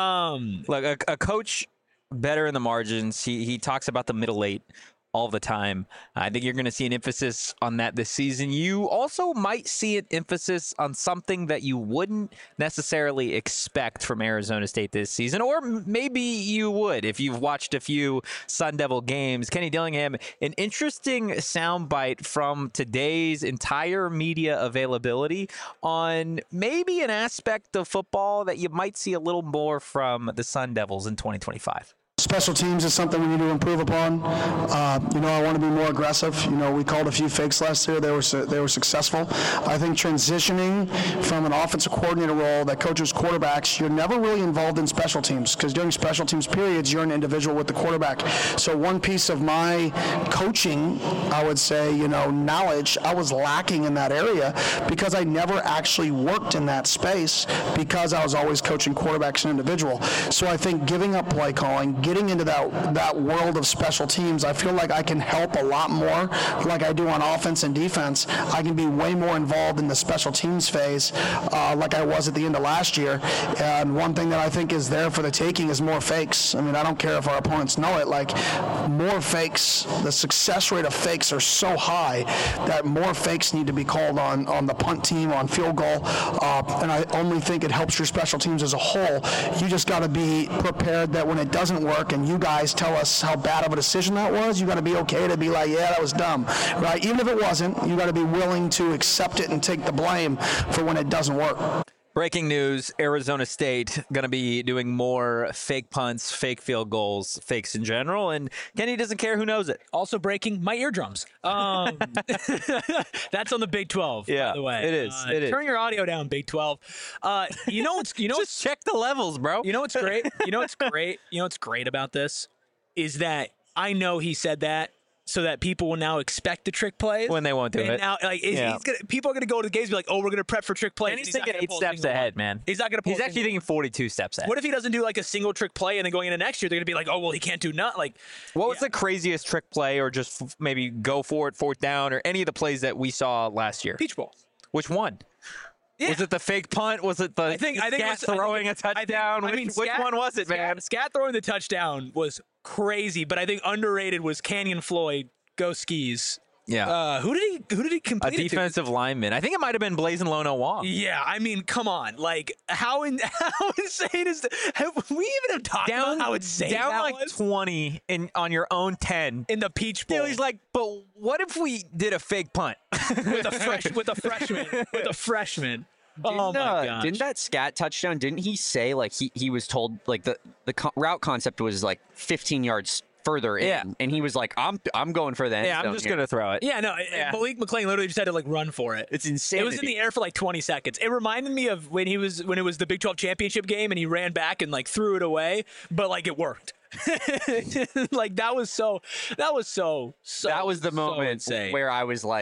Um, Look, a, a coach better in the margins. He he talks about the middle eight all the time. I think you're going to see an emphasis on that this season. You also might see an emphasis on something that you wouldn't necessarily expect from Arizona State this season, or m- maybe you would if you've watched a few Sun Devil games. Kenny Dillingham, an interesting soundbite from today's entire media availability on maybe an aspect of football that you might see a little more from the Sun Devils in twenty twenty-five. Special teams is something we need to improve upon. Uh, you know, I want to be more aggressive. You know, we called a few fakes last year. They were su- they were successful. I think transitioning from an offensive coordinator role that coaches quarterbacks, you're never really involved in special teams because during special teams periods, you're an individual with the quarterback. So one piece of my coaching, I would say, you know, knowledge, I was lacking in that area because I never actually worked in that space because I was always coaching quarterbacks and individual. So I think giving up play calling, getting into that that world of special teams, I feel like I can help a lot more like I do on offense and defense. I can be way more involved in the special teams phase uh, like I was at the end of last year. And one thing that I think is there for the taking is more fakes. I mean, I don't care if our opponents know it. Like, more fakes, the success rate of fakes are so high that more fakes need to be called on, on the punt team, on field goal. Uh, and I only think it helps your special teams as a whole. You just got to be prepared that when it doesn't work, and you guys tell us how bad of a decision that was, you got to be okay to be like, yeah, that was dumb, right? Even if it wasn't, you got to be willing to accept it and take the blame for when it doesn't work. Breaking news, Arizona State going to be doing more fake punts, fake field goals, fakes in general, and Kenny doesn't care who knows it. also breaking my eardrums. Um, that's on the Big twelve, Yeah, by the way. it is, Uh, it is. Turn your audio down, Big twelve. Uh, you know what's you know Just check the levels, bro. You know what's great? You know what's great? You know what's great about this is that I know he said that so that people will now expect the trick plays When they won't do and it. Now, like, he's, Yeah. he's gonna, people are going to go to the games and be like, "Oh, we're going to prep for trick plays." And he's, not thinking gonna eight pull a steps single ahead, one. man. He's not going to. He's actually thinking forty-two steps ahead. What if he doesn't do like a single trick play and then going into next year they're going to be like, "Oh, well, he can't do none." Like, What was yeah. the craziest trick play, or just f- maybe go for it, fourth down, or any of the plays that we saw last year? Peach Bowl. Which one? Yeah. Was it the fake punt? Was it the I think I think it Scat was- I think throwing it- a I think- touchdown? I which mean, which Scat- one was it, Scat, man? Scat throwing the touchdown was crazy, but I think underrated was Canyon Floyd. Go skis. Yeah, Uh, who did he? Who did he a complete it to? defensive lineman. I think it might have been Blazing Lono Wong. Yeah, I mean, come on. Like, how in, how insane is that? Have we even have talked Down, about how insane down that like was? twenty in on your own ten. In the Peach Bowl. Still, he's like, but what if we did a fake punt? with a fresh, with a freshman, with a freshman. Oh Didn't, my uh, gosh. didn't that scat touchdown? Didn't he say like he, he was told like the the co- route concept was like fifteen yards further in, Yeah. and he was like, I'm I'm going for the end Yeah, I'm zone just here. gonna throw it. Yeah, no. Yeah. Malik McClain literally just had to like run for it. It's insane. It was in the air for like twenty seconds. It reminded me of when he was when it was the Big twelve championship game and he ran back and like threw it away, but like it worked. Like that was so that was so so That was the so moment insane. where I was like,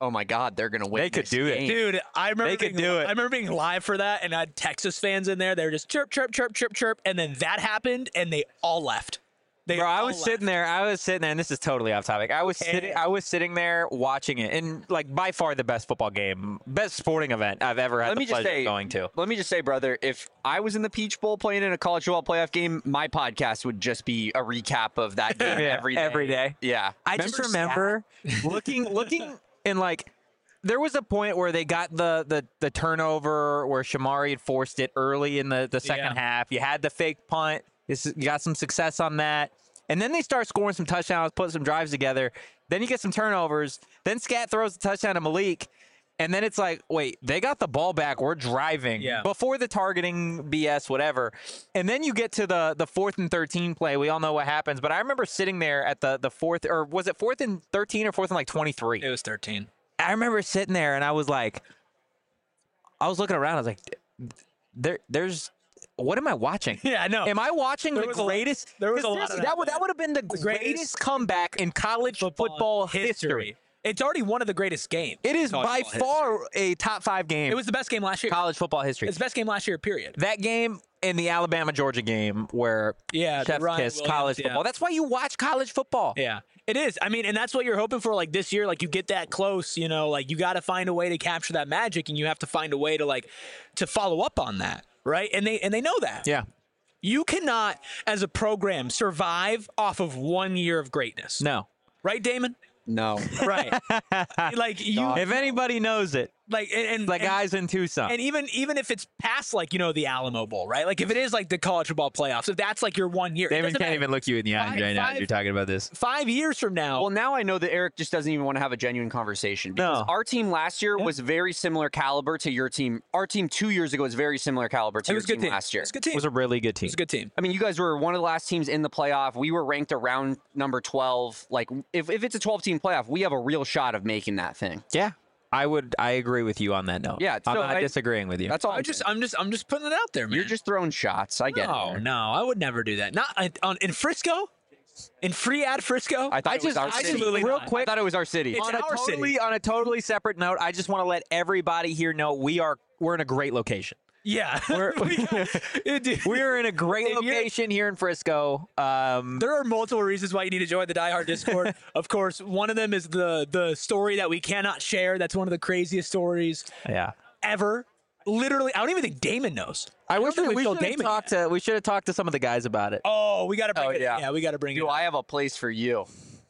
oh my God, they're gonna win. They could this do it. game. Dude, I remember They could being, do it. I remember being live for that, and I had Texas fans in there. They were just chirp, chirp, chirp, chirp, chirp, and then that happened, and they all left. They Bro, I all was left. sitting there. I was sitting there, and this is totally off topic. I was sitting. I was sitting there watching it, and like by far the best football game, best sporting event I've ever had Let the me just pleasure say, of going to. Let me just say, brother, if I was in the Peach Bowl playing in a college football playoff game, my podcast would just be a recap of that game Yeah, every day. every day. Yeah. I just remember looking, looking, and like there was a point where they got the the the turnover where Shamari had forced it early in the the second Yeah. half. You had the fake punt. This, you got some success on that. And then they start scoring some touchdowns, put some drives together. Then you get some turnovers. Then Scat throws a touchdown to Malik. And then it's like, wait, they got the ball back. We're driving Yeah. before the targeting B S, whatever. And then you get to the the fourth and thirteen play. We all know what happens. But I remember sitting there at the the fourth, or was it fourth and thirteen or fourth and like twenty-three? It was thirteen. I remember sitting there and I was like, I was looking around. I was like, there, there's, what am I watching? Yeah, I know. Am I watching There the was a lot- greatest? there was 'cause a lot this- of that that, would that man. would have been the, greatest greatest comeback in college football, history. It's already one of the greatest games. It is College by football history. far a top five game. It was the best game last year. college football history. It's the best game last year, period. That game and the Alabama Georgia game where Yeah, the Chef's Ryan kiss Williams, college yeah. football. That's why you watch college football. Yeah, it is. I mean, and that's what you're hoping for. Like this year, like you get that close, you know, like you got to find a way to capture that magic, and you have to find a way to like to follow up on that, right? And they and they know that. Yeah. You cannot, as a program, survive off of one year of greatness. No. Right, Damon? No. Right. Like you, If anybody knows it, like and, and the and- guys in Tucson. And even even if it's past like you know the Alamo Bowl, right? Like if it is like the college football playoffs, if that's like your one year, it Damon doesn't can't matter. even look you in the eye Five- right now. five- You're talking about this. Five years from now, Well, now I know that Eric just doesn't even want to have a genuine conversation. Because No. our team last year was very similar caliber to your team. Our team two years ago was very similar caliber to it your was a good team, team last year. It's a good team. It was a really good team. It was a good team. I mean, you guys were one of the last teams in the playoff. We were ranked around number twelve. Like, if, if it's a twelve-team playoff, we have a real shot of making that thing. Yeah. I would I agree with you on that note. Yeah, I'm so not I- disagreeing with you. That's all. I I'm just saying. I'm just I'm just putting it out there, man. You're just throwing shots. I get no, it. no, I would never do that. Not on, on in Frisco, in free ad Frisco. I thought I it was just- our I city. just- real I quick- thought it was our city. It's on a our city. totally on a totally separate note, I just want to let everybody here know we are we're in a great location. yeah, We're We got- Dude, we're in a great If you're- location here in Frisco. Um, There are multiple reasons why you need to join the Die Hard Discord. Of course, one of them is the the story that we cannot share. That's one of the craziest stories yeah. ever. Literally, I don't even think Damon knows. I wish don't think we, we we told should have Damon talked to we should have talked to some of the guys about it. Oh, we got to bring Oh, it. yeah. Yeah, we got to bring Do it. I have a place for you?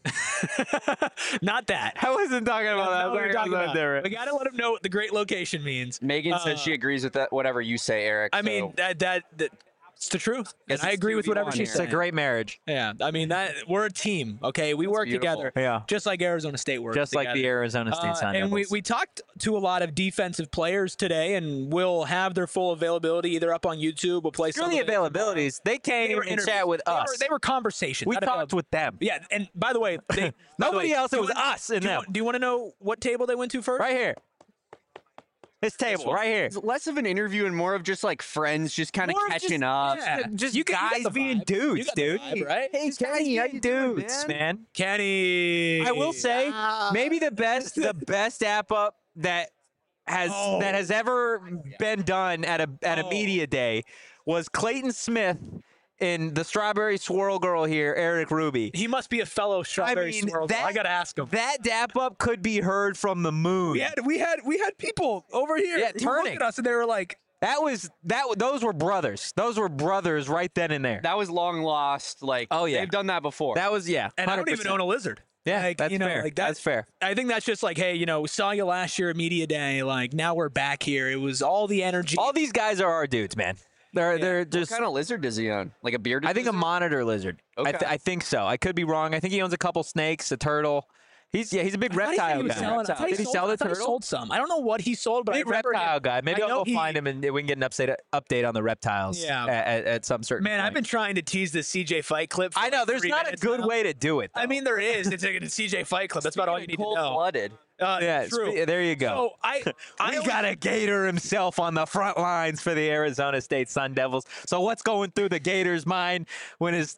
Not that. I wasn't talking about That's that. not what we're talking about. Different. We got to let him know what the great location means. Megan says she agrees with that. Whatever you say, Eric. I so- mean, that that, that it's the truth. And Guess I it's agree with whatever two v one she's here. It's a saying. great marriage, Yeah, I mean that we're a team. Okay, we work beautiful. together. Yeah. just like Arizona State works. just like the together. Arizona State Uh, Sun and we, Devils. we talked to a lot of defensive players today, and we'll have their full availability either up on YouTube. We'll play Screw some the of it. availabilities. They came They were and interviews. chat with They were- us. They were conversations. we not talked avail- with them. Yeah, and by the way, they, by the Nobody way, else. do It you was want- us and do you them. want- Do you want to know what table they went to first? Right here. This table, right here. It's less of an interview and more of just like friends, just kind of More of catching just- up. Yeah. Just You get- you guys got the being vibe. You dudes, got the dude. vibe, right? Hey, Kenny, how you dudes, man? Kenny. I will say, maybe the best, the best app up that has Oh. that has ever been done at a at a Oh. media day was Clayton Smith in the Strawberry Swirl Girl here, Eric Ruby. He must be a fellow strawberry mean, swirl. girl. that- I gotta ask him. That dap up could be heard from the moon. We had we had we had people over here Yeah, who turning. looked at us and they were like, That was that. Those were brothers. Those were brothers right then and there. That was long lost. Like, Oh, yeah. they've done that before. That was yeah. and I don't one hundred even percent. own a lizard. Yeah, like, that's you know, fair. Like that, That's fair. I think that's just like, hey, you know, we saw you last year at media day. Like now we're back here. It was all the energy. All these guys are our dudes, man. They're they're what just. kind of lizard does he own? Like a bearded I think a lizard? monitor lizard. I, th- Okay. I think so. I could be wrong. I think he owns a couple snakes, a turtle. He's yeah. He's a big I thought he said reptile he was guy. selling- I thought Did he sold- sell I the thought he turtle? sold some. I don't know what he sold, but I Big remember reptile him. guy. Maybe I I'll know go he- find him and we can get an update update on the reptiles. Yeah. At, at, at some certain. Man, I've point. been trying to tease this C J Fight clip. For I know. like There's three not a minutes good now. way to do it. I though. mean, there is. It's a C J Fight clip. That's about all you need to know. Cold-blooded. Uh, yeah. it's- true. There you go. So I, I we always- got a Gator himself on the front lines for the Arizona State Sun Devils. So what's going through the Gators' mind when his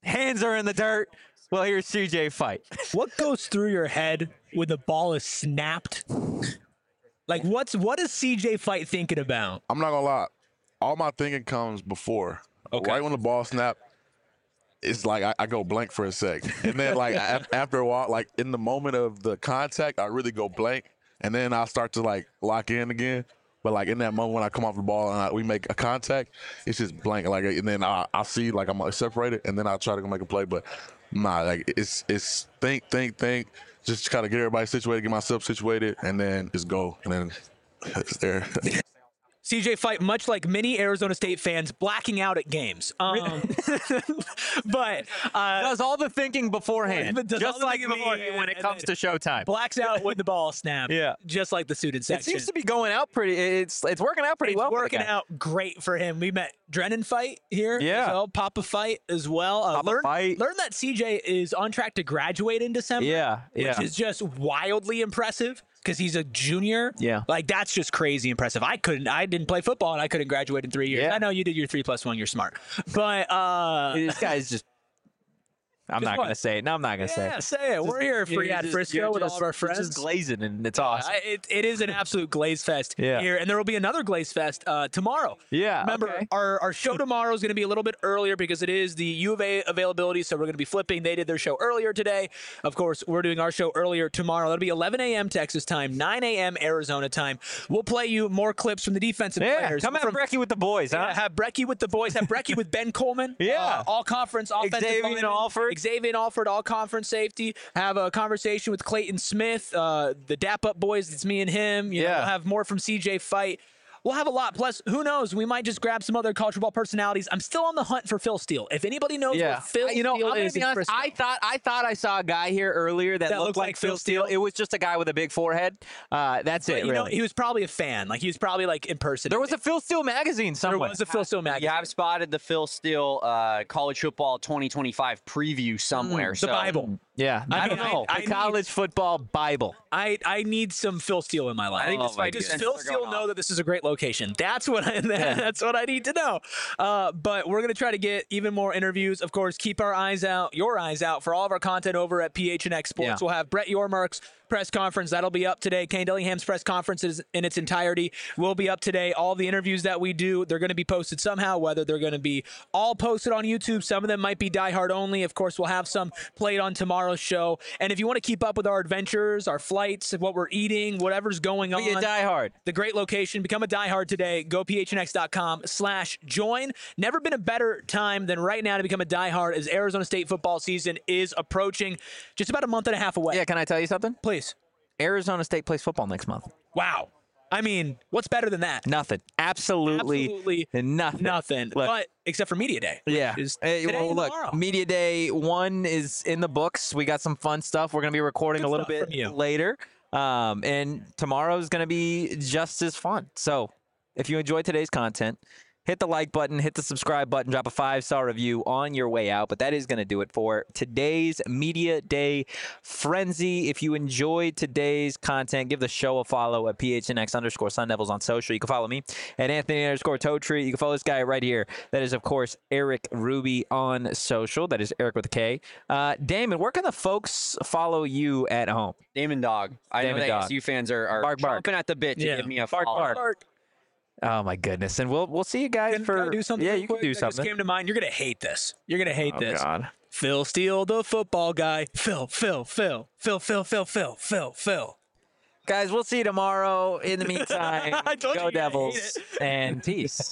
hands are in the dirt. Well, here's C J Fight. What goes through your head when the ball is snapped? Like, what's what is C J Fight thinking about? I'm not gonna lie. All my thinking comes before. Okay. Right when the ball snap, it's like I, I go blank for a sec, and then like a- after a while, like in the moment of the contact, I really go blank, and then I start to like lock in again. But like in that moment when I come off the ball and I, we make a contact, it's just blank. Like, and then I I see like I'm separated, and then I try to go make a play, but nah, like it's it's think think think, just kind of get everybody situated, get myself situated, and then just go, and then it's there. C J Fight, much like many Arizona State fans, blacking out at games. Um, but uh, Does all the thinking beforehand, But does all just the like thinking me beforehand, when it and comes to then showtime. blacks out when the ball snaps. Yeah. Just like the student It section. seems to be going out pretty. It's it's working out pretty it's well. for the working guy. out great for him. We met Drennan Fight here. Yeah. As well, Papa Fight as well. Uh, Papa learn, Fight. learn that C J is on track to graduate in December. Yeah, Which yeah. is just wildly impressive because he's a junior. Yeah. Like, that's just crazy impressive. I couldn't, I didn't play football and I couldn't graduate in three years. Yeah. I know you did your three plus one. You're smart. But, uh, This guy's just. I'm Just not what? gonna say it. No, I'm not gonna say yeah, it. say it. We're here for You're you at just- Frisco you're with just- all of our you're friends. just glazing, and it's awesome. I- it, it is an absolute Glaze Fest Yeah. here, and there will be another Glaze Fest uh, tomorrow. Yeah, Remember, okay. our, our show tomorrow is going to be a little bit earlier because it is the U of A availability, so we're going to be flipping. They did their show earlier today. Of course, we're doing our show earlier tomorrow. That'll be eleven a.m. Texas time, nine a.m. Arizona time. We'll play you more clips from the defensive Yeah, players. come out, from, Brecky with the boys, huh? Yeah, have Brecky with the boys. Have Brecky with Ben Coleman. Yeah. Uh, all conference offensive Xavier lineman. Alford. Xavier Alford, all conference safety. Have a conversation with Clayton Smith, uh, the Dap Up boys. It's me and him. You know, Yeah. we'll have more from C J Fight. We'll have a lot. Plus, who knows? We might just grab some other college football personalities. I'm still on the hunt for Phil Steele. If anybody knows Yeah, where Phil you know, Steele I'm gonna is be in honest. Frisco, I thought I thought I saw a guy here earlier that, That looked looked like, like Phil Phil Steele. Steele? It was just a guy with a big forehead. Uh, that's it. you know, really. he was probably a fan. Like, he was probably like in person. There was a Phil Steele magazine there somewhere. was a Phil Steele You magazine. have spotted the Phil Steele uh, college football twenty twenty-five preview somewhere. the so Bible. Yeah, I I, mean, don't know. I- I the need- college football Bible. I, I need some Phil Steele in my life. I think this Oh, my might be Does sense Phil they're Steele going know off. that this is a great location? That's what I that's what I need to know. Uh, but we're gonna try to get even more interviews. Of course, keep our eyes out, your eyes out for all of our content over at P H N X Sports. Yeah. We'll have Brett Yormark's press conference that'll be up today. Kane Dillingham's press conference is in its entirety will be up today. All the interviews that we do, they're going to be posted somehow. Whether they're going to be all posted on YouTube, some of them might be diehard only. Of course, we'll have some played on tomorrow's show. And if you want to keep up with our adventures, our flights, what we're eating, whatever's going on, Be a diehard. the great location. Become a diehard today. Go phnx.com slash join. Never been a better time than right now to become a diehard as Arizona State football season is approaching just about a month and a half away. Yeah, can I tell you something? Please. Arizona State plays football next month. Wow. I mean, what's better than that? Nothing. Absolutely, Absolutely nothing. Nothing. Look, But except for Media Day. which yeah. Is Hey, today well, and look, tomorrow. Media Day one is in the books. We got some fun stuff. We're going to be recording Good a little stuff bit from you. later. Um, and tomorrow's going to be just as fun. So if you enjoyed today's content, hit the like button, hit the subscribe button, drop a five-star review on your way out. But that is going to do it for today's Media Day Frenzy. If you enjoyed today's content, give the show a follow at P H N X underscore Sun Devils on social. You can follow me at Anthony underscore Totri. You can follow this guy right here. That is, of course, Eric Ruby on social. That is Eric with a K. Uh, Damon, where can the folks follow you at home? Damon Dog. I Damon know Dog. that A S U fans are, are Bark, bark. chomping at the bit to Yeah. give me a Bark, follow. bark. Oh my goodness! And we'll we'll see you guys Can, for can I do something? yeah. real You can quick do that something. Just came to mind. You're gonna hate this. You're gonna hate Oh this. God! Phil Steele, the football guy. Phil, Phil, Phil, Phil, Phil, Phil, Phil, Phil, Phil. Guys, we'll see you tomorrow. In the meantime, I told you go you're gonna hate Devils and peace.